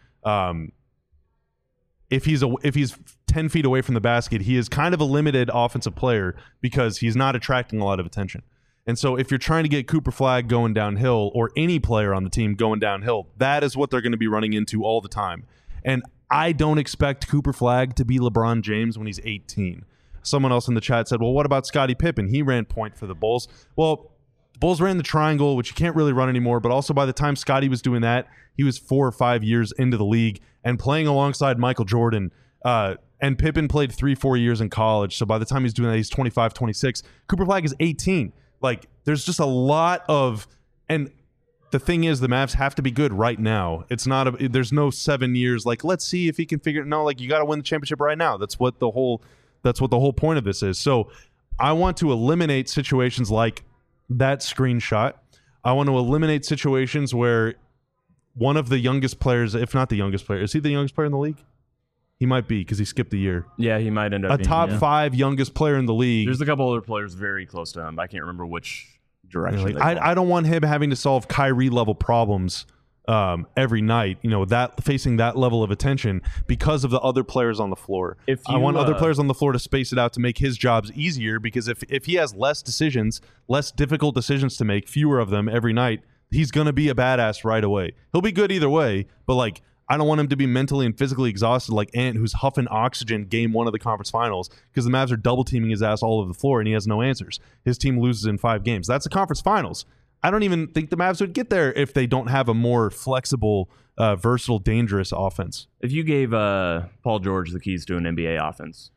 If he's 10 feet away from the basket, he is kind of a limited offensive player because he's not attracting a lot of attention. And so if you're trying to get Cooper Flagg going downhill, or any player on the team going downhill, that is what they're going to be running into all the time. And I don't expect Cooper Flagg to be LeBron James when he's 18. Someone else in the chat said, well, what about Scottie Pippen? He ran point for the Bulls. Well, the Bulls ran the triangle, which you can't really run anymore, but also by the time Scottie was doing that, he was 4 or 5 years into the league and playing alongside Michael Jordan. And Pippen played 3-4 years in college. So by the time he's doing that, he's 25, 26. Cooper Flagg is 18. Like, there's just a lot of, and the thing is, the Mavs have to be good right now. It's not there's no 7 years. Like, let's see if he can figure it. No, like, you got to win the championship right now. That's what the whole point of this is. So I want to eliminate situations like that screenshot. I want to eliminate situations where one of the youngest players, if not the youngest player, is he the youngest player in the league? He might be because he skipped a year. Yeah, he might end up being top 5 youngest player in the league. There's a couple other players very close to him. I can't remember which direction. I don't want him having to solve Kyrie level problems every night. You know, that facing that level of attention because of the other players on the floor. I want other players on the floor to space it out to make his jobs easier. Because if he has less difficult decisions to make, fewer of them every night, he's going to be a badass right away. He'll be good either way, but like, I don't want him to be mentally and physically exhausted like Ant, who's huffing oxygen game 1 of the conference finals because the Mavs are double teaming his ass all over the floor and he has no answers. His team loses in 5 games. That's the conference finals. I don't even think the Mavs would get there if they don't have a more flexible, versatile, dangerous offense. If you gave Paul George the keys to an NBA offense,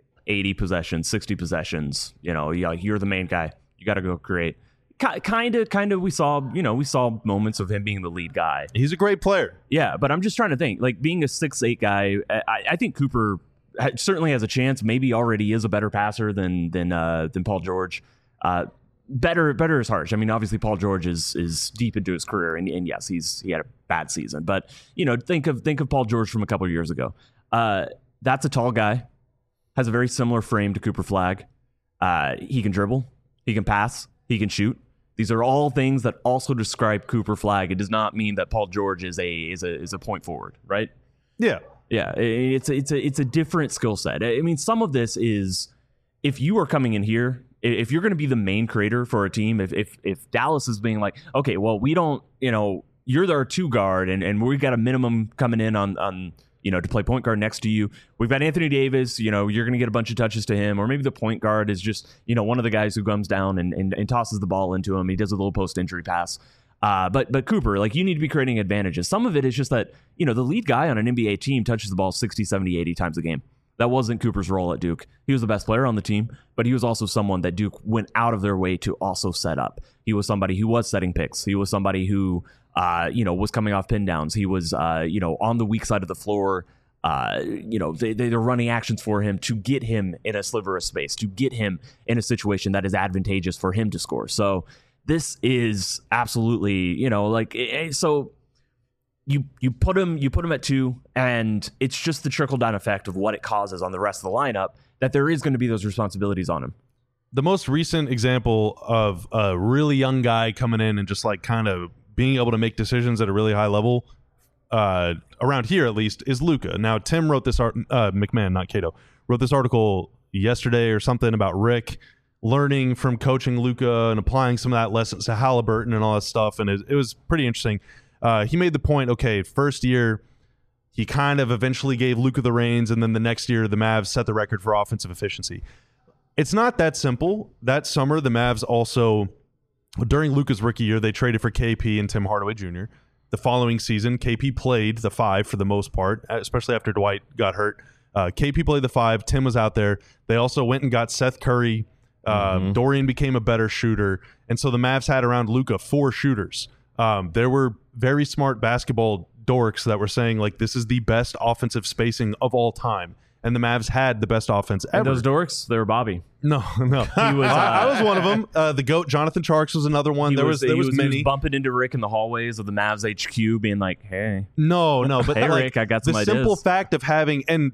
80 possessions, 60 possessions, you're the main guy. You got to go create. Kind of. We saw moments of him being the lead guy. He's a great player. Yeah, but I'm just trying to think. Like, being a 6'8" guy, I think Cooper certainly has a chance. Maybe already is a better passer than Paul George. Better is harsh. I mean, obviously Paul George is deep into his career, and yes, he had a bad season. But think of Paul George from a couple of years ago. That's a tall guy, has a very similar frame to Cooper Flagg. He can dribble, he can pass, he can shoot. These are all things that also describe Cooper Flagg. It does not mean that Paul George is a point forward, right? Yeah. Yeah, it's a different skill set. I mean, some of this is, if you are coming in here, if you're going to be the main creator for a team, if Dallas is being like, okay, well, we don't, you're our 2 guard, and we got a minimum coming in on to play point guard next to you. We've got Anthony Davis, you're going to get a bunch of touches to him, or maybe the point guard is just, one of the guys who comes down and tosses the ball into him. He does a little post-injury pass. But Cooper, you need to be creating advantages. Some of it is just that, the lead guy on an NBA team touches the ball 60, 70, 80 times a game. That wasn't Cooper's role at Duke. He was the best player on the team, but he was also someone that Duke went out of their way to also set up. He was somebody who was setting picks. He was somebody who, was coming off pin downs. He was, on the weak side of the floor. They're running actions for him to get him in a sliver of space, to get him in a situation that is advantageous for him to score. So this is absolutely, so you put him at 2, and it's just the trickle down effect of what it causes on the rest of the lineup that there is going to be those responsibilities on him. The most recent example of a really young guy coming in and just kind of being able to make decisions at a really high level, around here at least, is Luka. Now, Tim wrote this McMahon, not Cato, wrote this article yesterday or something about Rick learning from coaching Luka and applying some of that lessons to Halliburton and all that stuff, and it was pretty interesting. He made the point, okay, first year, he kind of eventually gave Luka the reins, and then the next year, the Mavs set the record for offensive efficiency. It's not that simple. That summer, the Mavs also, during Luka's rookie year, they traded for KP and Tim Hardaway Jr. The following season, KP played the 5 for the most part, especially after Dwight got hurt. KP played the 5. Tim was out there. They also went and got Seth Curry. Dorian became a better shooter. And so the Mavs had around Luka 4 shooters. There were very smart basketball dorks that were saying, this is the best offensive spacing of all time. And the Mavs had the best offense ever. And those dorks, they were Bobby. No. He was, I was one of them. The GOAT, Jonathan Tjarks, was another one. There was many. He was bumping into Rick in the hallways of the Mavs HQ, being like, hey. No. But hey, Rick, I got some ideas. The simple fact of having, and,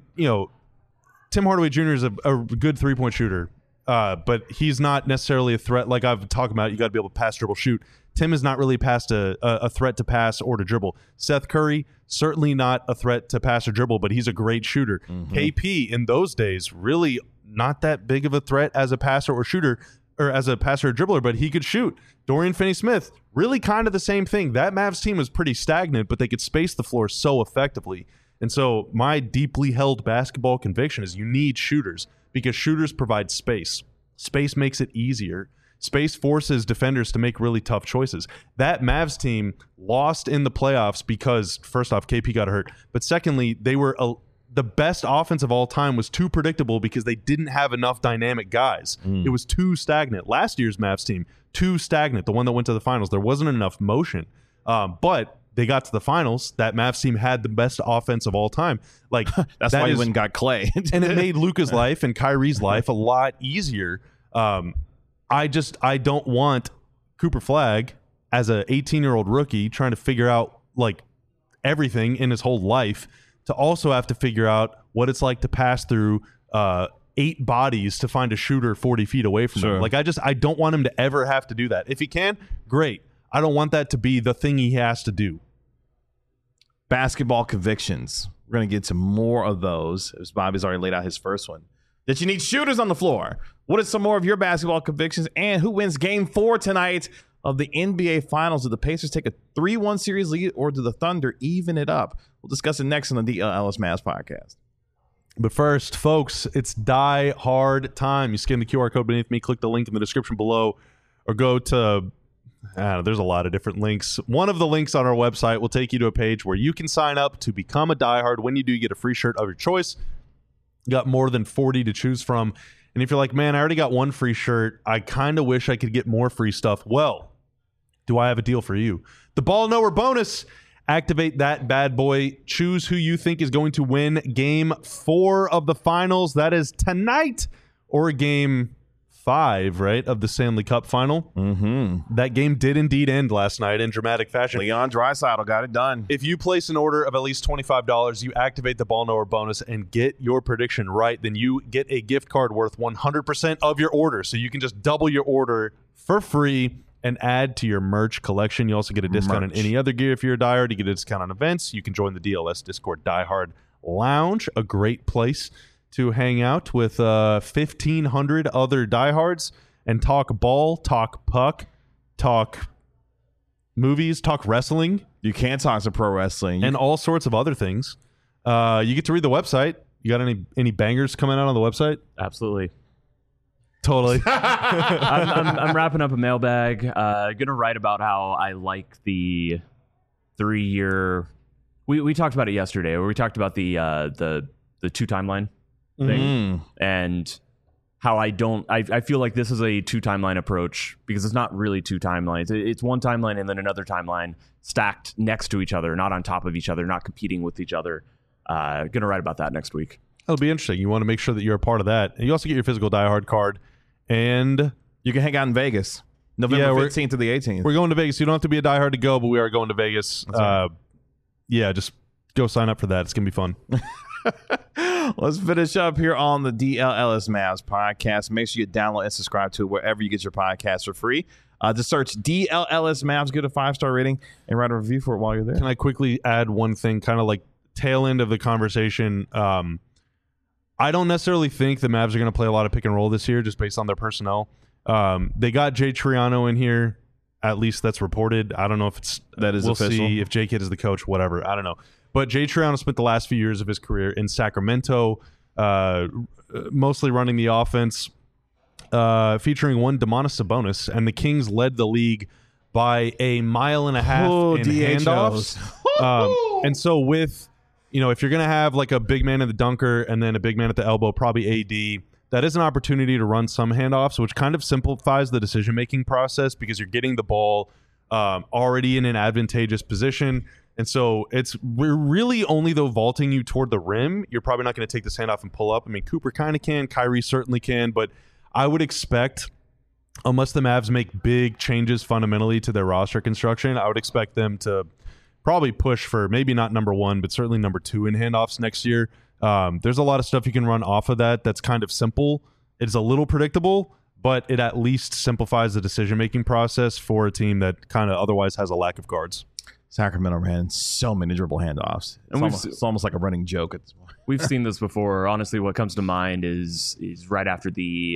Tim Hardaway Jr. is a good three-point shooter, but he's not necessarily a threat. Like I've talked about, you got to be able to pass, dribble, shoot. Tim is not really past a threat to pass or to dribble. Seth Curry, certainly not a threat to pass or dribble, but he's a great shooter. KP, in those days, really not that big of a threat as a passer or shooter, or as a passer or dribbler, but he could shoot. Dorian Finney-Smith, really kind of the same thing. That Mavs team was pretty stagnant, but they could space the floor so effectively. And so my deeply held basketball conviction is you need shooters, because shooters provide space. Space makes it easier. Space forces defenders to make really tough choices. That Mavs team lost in the playoffs because, first off, KP got hurt. But secondly, they were the best offense of all time was too predictable because they didn't have enough dynamic guys. It was too stagnant. Last year's Mavs team, too stagnant. The one that went to the finals, there wasn't enough motion. But they got to the finals. That Mavs team had the best offense of all time. That's why you went and got Clay. And it made Luka's life and Kyrie's life a lot easier. I don't want Cooper Flagg as a 18-year-old rookie trying to figure out everything in his whole life to also have to figure out what it's like to pass through 8 bodies to find a shooter 40 feet away from him. I don't want him to ever have to do that. If he can, great. I don't want that to be the thing he has to do. Basketball convictions. We're going to get to more of those, as Bobby's already laid out his first one. That you need shooters on the floor. What are some more of your basketball convictions? And who wins Game 4 tonight of the NBA Finals? Do the Pacers take a 3-1 series lead, or do the Thunder even it up? We'll discuss it next on the Ellis Mavs podcast. But first, folks, it's Die Hard time. You scan the QR code beneath me, click the link in the description below, or go to, there's a lot of different links. One of the links on our website will take you to a page where you can sign up to become a Die Hard. When you do, you get a free shirt of your choice. You got more than 40 to choose from. And if you're like, man, I already got one free shirt, I kind of wish I could get more free stuff. Well, do I have a deal for you? The Ball Knower bonus. Activate that bad boy. Choose who you think is going to win Game 4 of the finals. That is tonight, or Game 5, right, of the Stanley Cup final. That game did indeed end last night in dramatic fashion. Leon Draisaitl got it done. If you place an order of at least $25, you activate the Ball Knower bonus and get your prediction right, then you get a gift card worth 100% of your order. So you can just double your order for free and add to your merch collection. You also get a discount on any other gear if you're a diehard. You get a discount on events. You can join the DLS Discord Diehard Lounge, a great place to hang out with 1,500 other diehards and talk ball, talk puck, talk movies, talk wrestling. You can talk to pro wrestling. And all sorts of other things. You get to read the website. You got any bangers coming out on the website? Absolutely. Totally. I'm wrapping up a mailbag. Gonna write about how I like the 3-year. We talked about it yesterday, where we talked about the 2 timeline thing, and how I feel like this is a 2 timeline approach, because it's not really 2 timelines. It's 1 timeline and then another timeline stacked next to each other, not on top of each other, not competing with each other. Gonna write about that next week. That'll be interesting. You want to make sure that you're a part of that. And you also get your physical Die Hard card. And you can hang out in Vegas, November 15th to the 18th. We're going to Vegas. You don't have to be a Die Hard to go, but we are going to Vegas. Right. Yeah, just go sign up for that. It's going to be fun. Let's finish up here on the DLLS Mavs podcast. Make sure you download and subscribe to it wherever you get your podcasts for free. Just search DLLS Mavs, give it a 5-star rating, and write a review for it while you're there. Can I quickly add one thing, kind of like tail end of the conversation? I don't necessarily think the Mavs are going to play a lot of pick and roll this year, just based on their personnel. They got Jay Triano in here. At least that's reported. I don't know if that is official. We'll see if Jay Kidd is the coach, whatever. I don't know. But Jay Triano spent the last few years of his career in Sacramento, mostly running the offense, featuring one Domantas Sabonis, and the Kings led the league by 1.5 miles in handoffs. And so with, if you're going to have like a big man at the dunker and then a big man at the elbow, probably AD, that is an opportunity to run some handoffs, which kind of simplifies the decision-making process, because you're getting the ball already in an advantageous position. And so we're really only, though, vaulting you toward the rim. You're probably not going to take this handoff and pull up. I mean, Cooper kind of can. Kyrie certainly can. But I would expect, unless the Mavs make big changes fundamentally to their roster construction, I would expect them to probably push for maybe not number 1, but certainly number 2 in handoffs next year. There's a lot of stuff you can run off of that's kind of simple. It's a little predictable, but it at least simplifies the decision-making process for a team that kind of otherwise has a lack of guards. Sacramento ran so many dribble handoffs. It's almost like a running joke at this point. We've seen this before. Honestly, what comes to mind is right after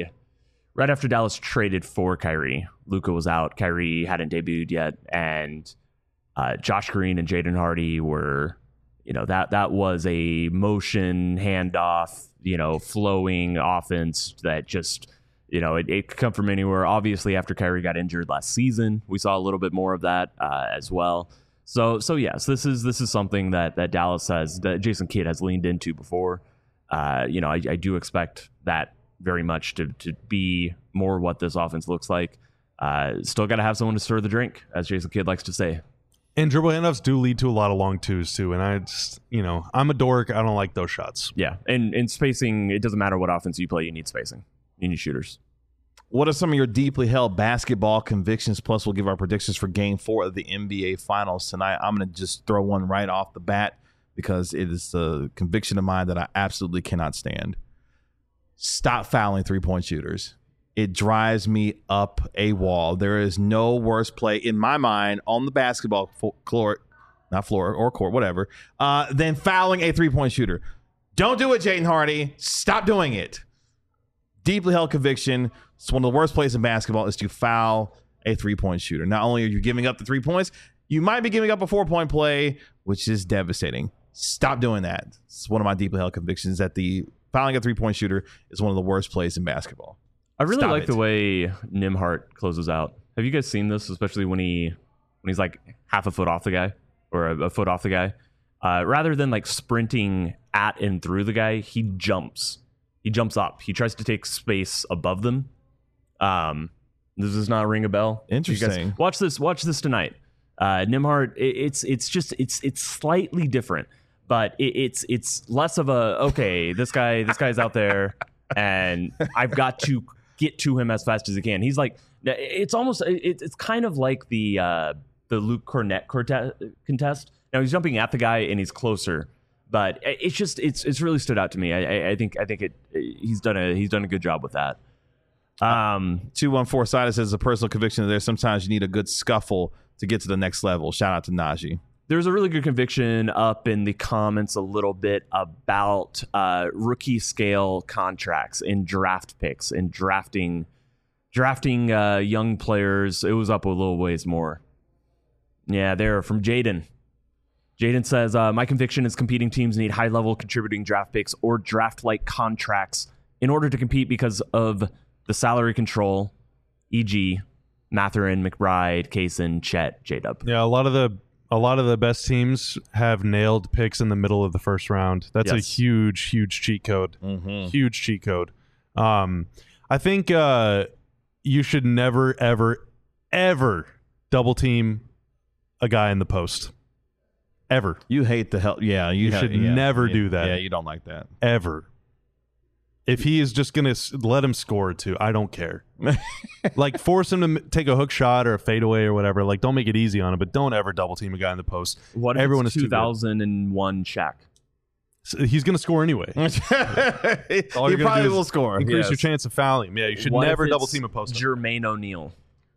Dallas traded for Kyrie. Luka was out. Kyrie hadn't debuted yet, and Josh Green and Jaden Hardy were, that was a motion handoff, flowing offense that just, it could come from anywhere. Obviously, after Kyrie got injured last season, we saw a little bit more of that as well. So yes, this is something that Dallas that Jason Kidd has leaned into before. I do expect that very much to be more what this offense looks like. Still got to have someone to stir the drink, as Jason Kidd likes to say. And dribble handoffs do lead to a lot of long twos too. And I just, I'm a dork. I don't like those shots. Yeah, and spacing. It doesn't matter what offense you play. You need spacing. You need shooters. What are some of your deeply held basketball convictions? Plus, we'll give our predictions for Game 4 of the NBA Finals tonight. I'm going to just throw one right off the bat, because it is a conviction of mine that I absolutely cannot stand. Stop fouling three-point shooters. It drives me up a wall. There is no worse play in my mind on the basketball court, not floor or court, whatever, than fouling a three-point shooter. Don't do it, Jaden Hardy. Stop doing it. Deeply held conviction. It's one of the worst plays in basketball is to foul a three-point shooter. Not only are you giving up the 3 points, you might be giving up a 4-point play, which is devastating. Stop doing that. It's one of my deeply held convictions that the fouling a three-point shooter is one of the worst plays in basketball. I really like the way Nembhard closes out. Have you guys seen this, especially when he's like half a foot off the guy or a foot off the guy? Rather than like sprinting at and through the guy, he jumps. He jumps up. He tries to take space above them. Does this not ring a bell? Interesting. Watch this tonight. Nembhard, it's slightly different, but it's less of a this guy's out there and I've got to get to him as fast as I can. He's like, it's kind of like the Luke Cornett contest. Now he's jumping at the guy and he's closer, but it's really stood out to me. I think he's done a good job with that. 214 Sida says a personal conviction there. Sometimes you need a good scuffle to get to the next level. Shout out to Najee. There's a really good conviction up in the comments a little bit about rookie scale contracts and draft picks and drafting young players. It was up a little ways more. Yeah, there from Jaden Jaden says, my conviction is competing teams need high-level contributing draft picks or draft-like contracts in order to compete because of the salary control, e.g. Mathurin, McBride, Kaysen, Chet, J-Dub. Yeah, a lot of the best teams have nailed picks in the middle of the first round. That's a huge cheat code. Huge cheat code. I think you should never, ever double team a guy in the post. Ever. You hate the hell. Yeah, you should never do that. Yeah, you don't like that. Ever. If he is just going to let him score too, I don't care. Like, force him to take a hook shot or a fadeaway or whatever. Like, don't make it easy on him, but don't ever double team a guy in the post. What if Everyone it's is 2001 Shaq? So he's going to score anyway. He probably will score. Increase your chance of fouling him. Yeah, you should never double team a post. Jermaine O'Neal.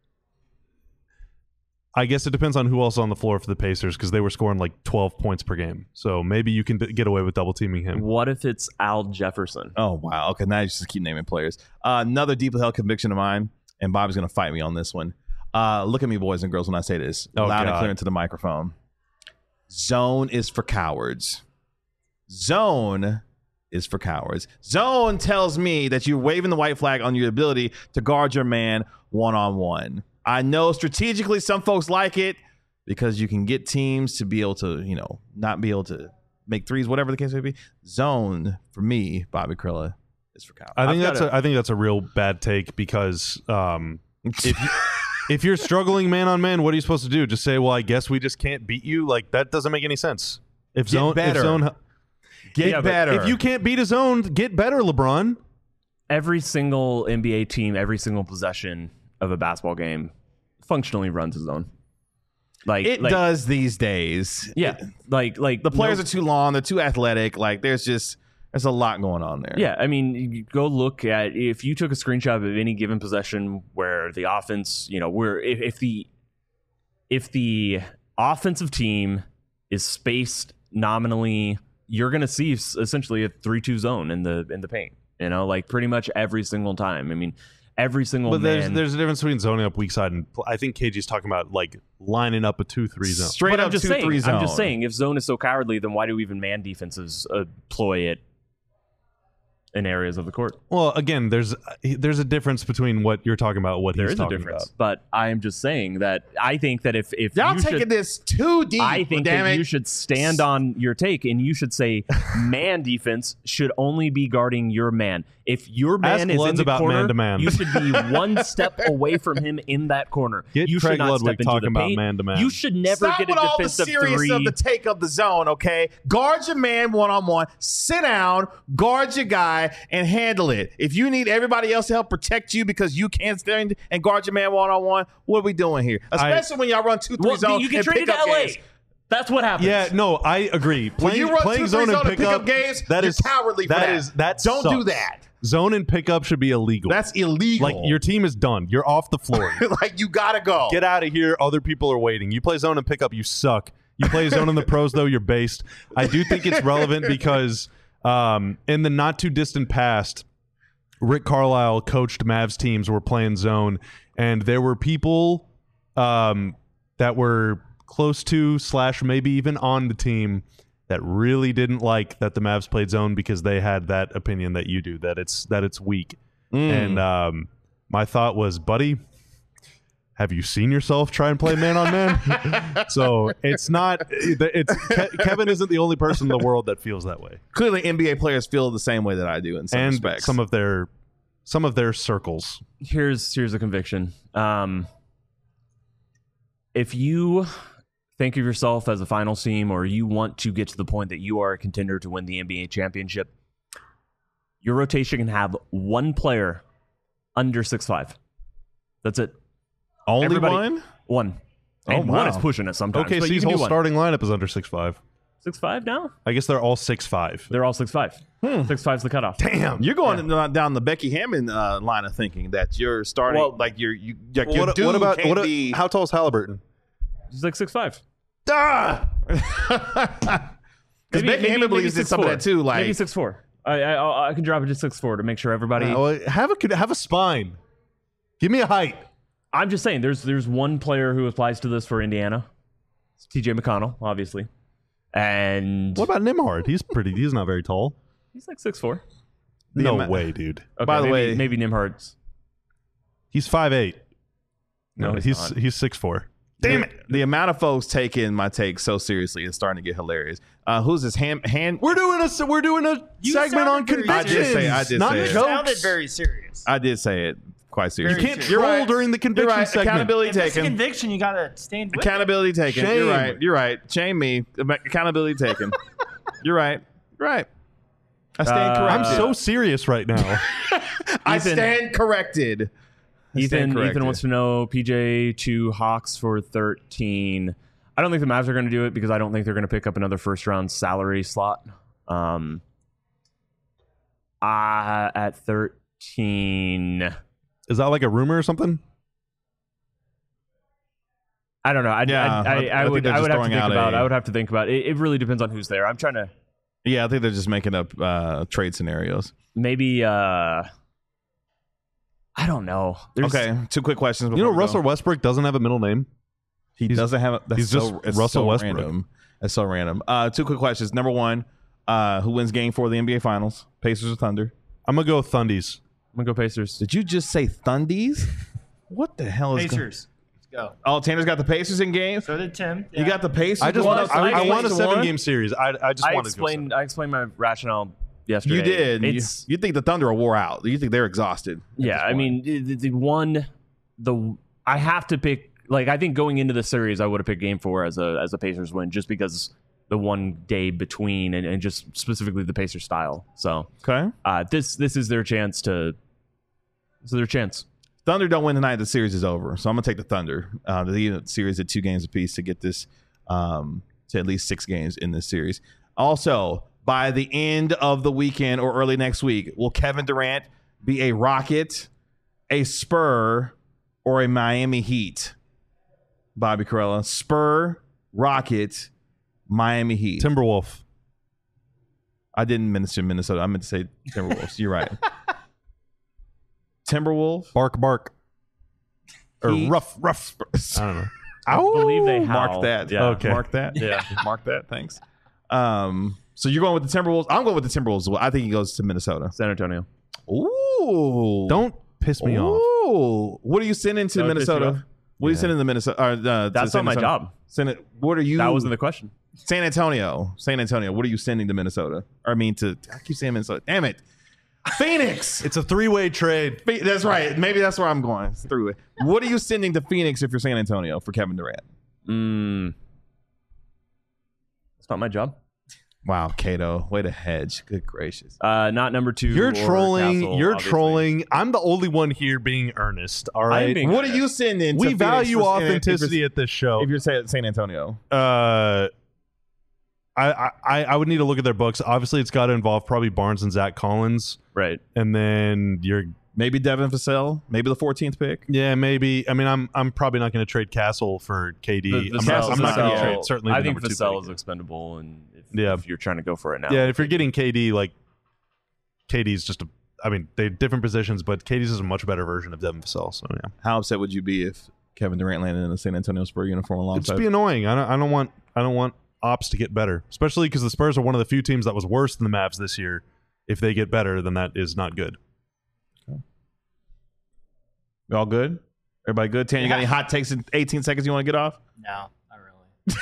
I guess it depends on who else is on the floor for the Pacers, because they were scoring like 12 points per game. So maybe you can get away with double teaming him. What if it's Al Jefferson? Oh, wow. Okay, now you just keep naming players. Another deeply held conviction of mine, and Bob's going to fight me on this one. Look at me, boys and girls, when I say this. Loud and clear into the microphone. Zone is for cowards. Zone is for cowards. Zone tells me that you're waving the white flag on your ability to guard your man one-on-one. I know strategically some folks like it because you can get teams to be able to, not be able to make threes, whatever the case may be. Zone, for me, Bobby Krilla, is for cowards. I think that's a real bad take, because if you're struggling man on man, what are you supposed to do? Just say, well, I guess we just can't beat you? Like, that doesn't make any sense. Get better. If you can't beat a zone, get better, LeBron. Every single NBA team, every single possession of a basketball game functionally runs a zone. It does these days. Yeah. The players are too long, they're too athletic. Like, there's a lot going on there. Yeah, I mean, you go look at, if you took a screenshot of any given possession where the offense, if the offensive team is spaced nominally, you're going to see essentially a 3-2 zone in the paint. Pretty much every single time. I mean, every single there's a difference between zoning up weak side, and I think KG's talking about like lining up a 2-3 zone. Straight up 2-3 zone. I'm just saying, if zone is so cowardly, then why do even man defenses employ it in areas of the court? Well, again, there's a difference between what you're talking about, what he's talking about. But I am just saying that I think that if y'all taking this too deep, I think you should stand on your take, and you should say man defense should only be guarding your man. If your man is in the corner, man-to-man. You should be one step away from him in that corner. You should Craig not Ludwig step into talking the paint. about man-to-man. You should never Stop get with a all the defensive serious three. of the take of the zone, okay? Guard your man one-on-one, sit down, guard your guy, and handle it. If you need everybody else to help protect you because you can't stand and guard your man one-on-one, what are we doing here? Especially when y'all run 2-3 zone you get and traded pick to up LA. games. That's what happens. Yeah, no, I agree. When you run 2-3 zone and pick up games, that is cowardly for that. Don't do that. Zone and pickup should be illegal. That's illegal. Like, your team is done. You're off the floor. Like, you gotta go. Get out of here. Other people are waiting. You play zone and pickup, you suck. You play zone in the pros, though, you're based. I do think it's relevant because in the not too distant past, Rick Carlisle coached Mavs teams were playing zone, and there were people that were close to / maybe even on the team that really didn't like that the Mavs played zone, because they had that opinion that you do, that it's weak. And my thought was, buddy, have you seen yourself try and play man on man? So it's not. Kevin isn't the only person in the world that feels that way. Clearly, NBA players feel the same way that I do in some respects. Some of their circles. Here's a conviction. If you think of yourself as a finals team, or you want to get to the point that you are a contender to win the NBA championship, your rotation can have one player under 6'5". That's it. Only one? One. Oh, and wow. one is pushing it sometimes. Okay, so his whole starting lineup is under 6'5". 6'5" now? I guess they're all 6'5". They're all 6'5". 6'5's the cutoff. Damn. You're going down the Becky Hammond line of thinking that you're starting how tall is Halliburton? He's like 6'5". Because Becky Hammond believes in some of that too. Like, maybe 6'4". I can drop it to 6'4" to make sure everybody. Have a spine. Give me a height. I'm just saying, there's one player who applies to this for Indiana. It's TJ McConnell, obviously. And What about Nimhard? He's not very tall. he's like 6'4". No way, dude. Okay, By the way, maybe Nimhard's. He's 5'8". No, he's not. 6'4". Damn it! The amount of folks taking my take so seriously is starting to get hilarious. Who's this? Hand? We're doing a segment on sounded very convictions. I did not say it. It jokes. sounded very serious. I did say it quite seriously. You can't You're troll right. during the You're conviction right. segment. Accountability If it's a taken. conviction, you gotta stand with it. Accountability taken. Shame. You're right. You're right. Shame me. Accountability taken. You're right. Right. I stand corrected. I'm so serious right now. I Ethan- stand corrected. I stand Ethan corrected. wants to know PJ to Hawks for 13. I don't think the Mavs are going to do it because I don't think they're going to pick up another first-round salary slot. At 13, Is that like a rumor or something? I don't know. I think would they're I just would have to throwing think out about. a- I would have to think about it. It really depends on who's there. I'm trying to Yeah, I think they're just making up trade scenarios. maybe. I don't know. There's, Okay, 2 quick questions. You know, before we Russell go. Westbrook doesn't have a middle name. He doesn't have. That's he's just it's Russell so Westbrook. Random. That's so random. 2 quick questions. Number 1, who wins Game 4 of the NBA Finals? Pacers or Thunder? I'm gonna go Thundies. I'm gonna go Pacers. Did you just say Thundies? What the hell is going? Pacers. Let's go. Oh, Tanner's got the Pacers in game. So did Tim. You got the Pacers. I just going want. up I 3 want a games to 7-game series. I just I want to go explained my rationale yesterday. You did. It's You think the Thunder are wore out? You think they're exhausted? at yeah. this I point? mean, I have to pick. Like, I think going into the series, I would have picked Game 4 as a Pacers win, just because the one day between and just specifically the Pacers style. So okay. this is their chance to. This is their chance. Thunder don't win tonight. The series is over. So I'm gonna take the Thunder. The series at 2 games apiece to get this to at least 6 games in this series. Also, by the end of the weekend or early next week, will Kevin Durant be a Rocket, a Spur, or a Miami Heat? Bobby Carella, Spur, Rocket, Miami Heat. Timberwolf. I didn't mention Minnesota. I meant to say Timberwolves. You're right. Timberwolves. Bark. Or Heat. rough. I don't know. I believe they Mark howl. that. Yeah. Okay. Mark that. Yeah. Mark that. Thanks. So you're going with the Timberwolves. I'm going with the Timberwolves as well. I think he goes to Minnesota. San Antonio. Ooh. Don't piss me off. Ooh. What are you sending to That would piss you Minnesota? off? What are you sending to Minnesota? That's not my job. Send it. What are you? That wasn't the question. San Antonio. San Antonio. What are you sending to Minnesota? Or I mean to. I keep saying Minnesota. Damn it. Phoenix. It's a 3-way trade. That's right. Maybe that's where I'm going. Through it. What are you sending to Phoenix if you're San Antonio for Kevin Durant? It's not my job. Wow, Cato. Way to hedge. Good gracious. Not number 2. You're or trolling. Castle, You're obviously. trolling. I'm the only one here being earnest. All I'm right. being- What are you sending? We to value Phoenix for- authenticity at this show. If you're San Antonio, I would need to look at their books. Obviously, it's got to involve probably Barnes and Zach Collins, Right. and then you're maybe Devin Vassell, maybe the 14th pick. maybe. I mean, I'm probably not going to trade Castle for KD. I'm Vassell- not going to Vassell- trade certainly. I the think number 2 Vassell pick. is expendable, and Yeah. if you're trying to go for it now. Yeah, if you're getting KD, like KD's just a. I mean, they're different positions, but KD's is a much better version of Devin Vassell. So yeah, How upset would you be if Kevin Durant landed in a San Antonio Spurs uniform it'd alongside? just be annoying. I don't want ops to get better, especially because the Spurs are one of the few teams that was worse than the Mavs this year. If they get better, then that is not good. You all good? Everybody good? Tan, you got any hot takes in 18 seconds you want to get off? No, not really.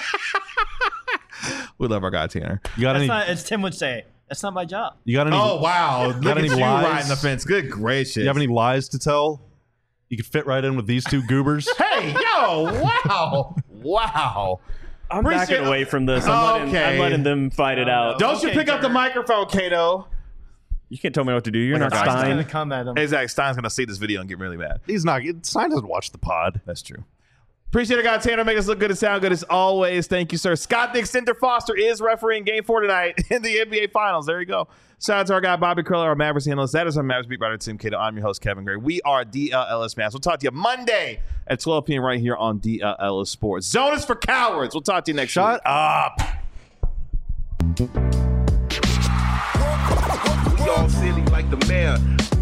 We love our guy Tanner. You got That's any? not, as Tim would say, that's not my job. You got any? Oh wow! Look at any you lies? riding the fence. Good gracious! You have any lies to tell? You could fit right in with these 2 goobers. Hey yo! Wow! Wow! I'm Appreciate- backing away from this. I'm letting them fight it out. Don't you Okay, pick up the Tanner. microphone, Cato? You can't tell me what to do. You're not I'm just Stein. gonna come at him. Exactly. Stein's gonna see this video and get really mad. He's not. Stein doesn't watch the pod. That's true. Appreciate it, guy Tanner. Make us look good and sound good as always. Thank you, sir. Scott the Extender Foster is refereeing Game 4 tonight in the NBA Finals. There you go. Shout out to our guy Bobby Curler, our Mavericks analyst. That is our Mavericks beat writer Tim Cato. I'm your host Kevin Gray. We are DLS Mavs. We'll talk to you Monday at 12 p.m. right here on DLS Sports. Zone is for cowards. We'll talk to you next week. Shut up. We all silly like the mayor.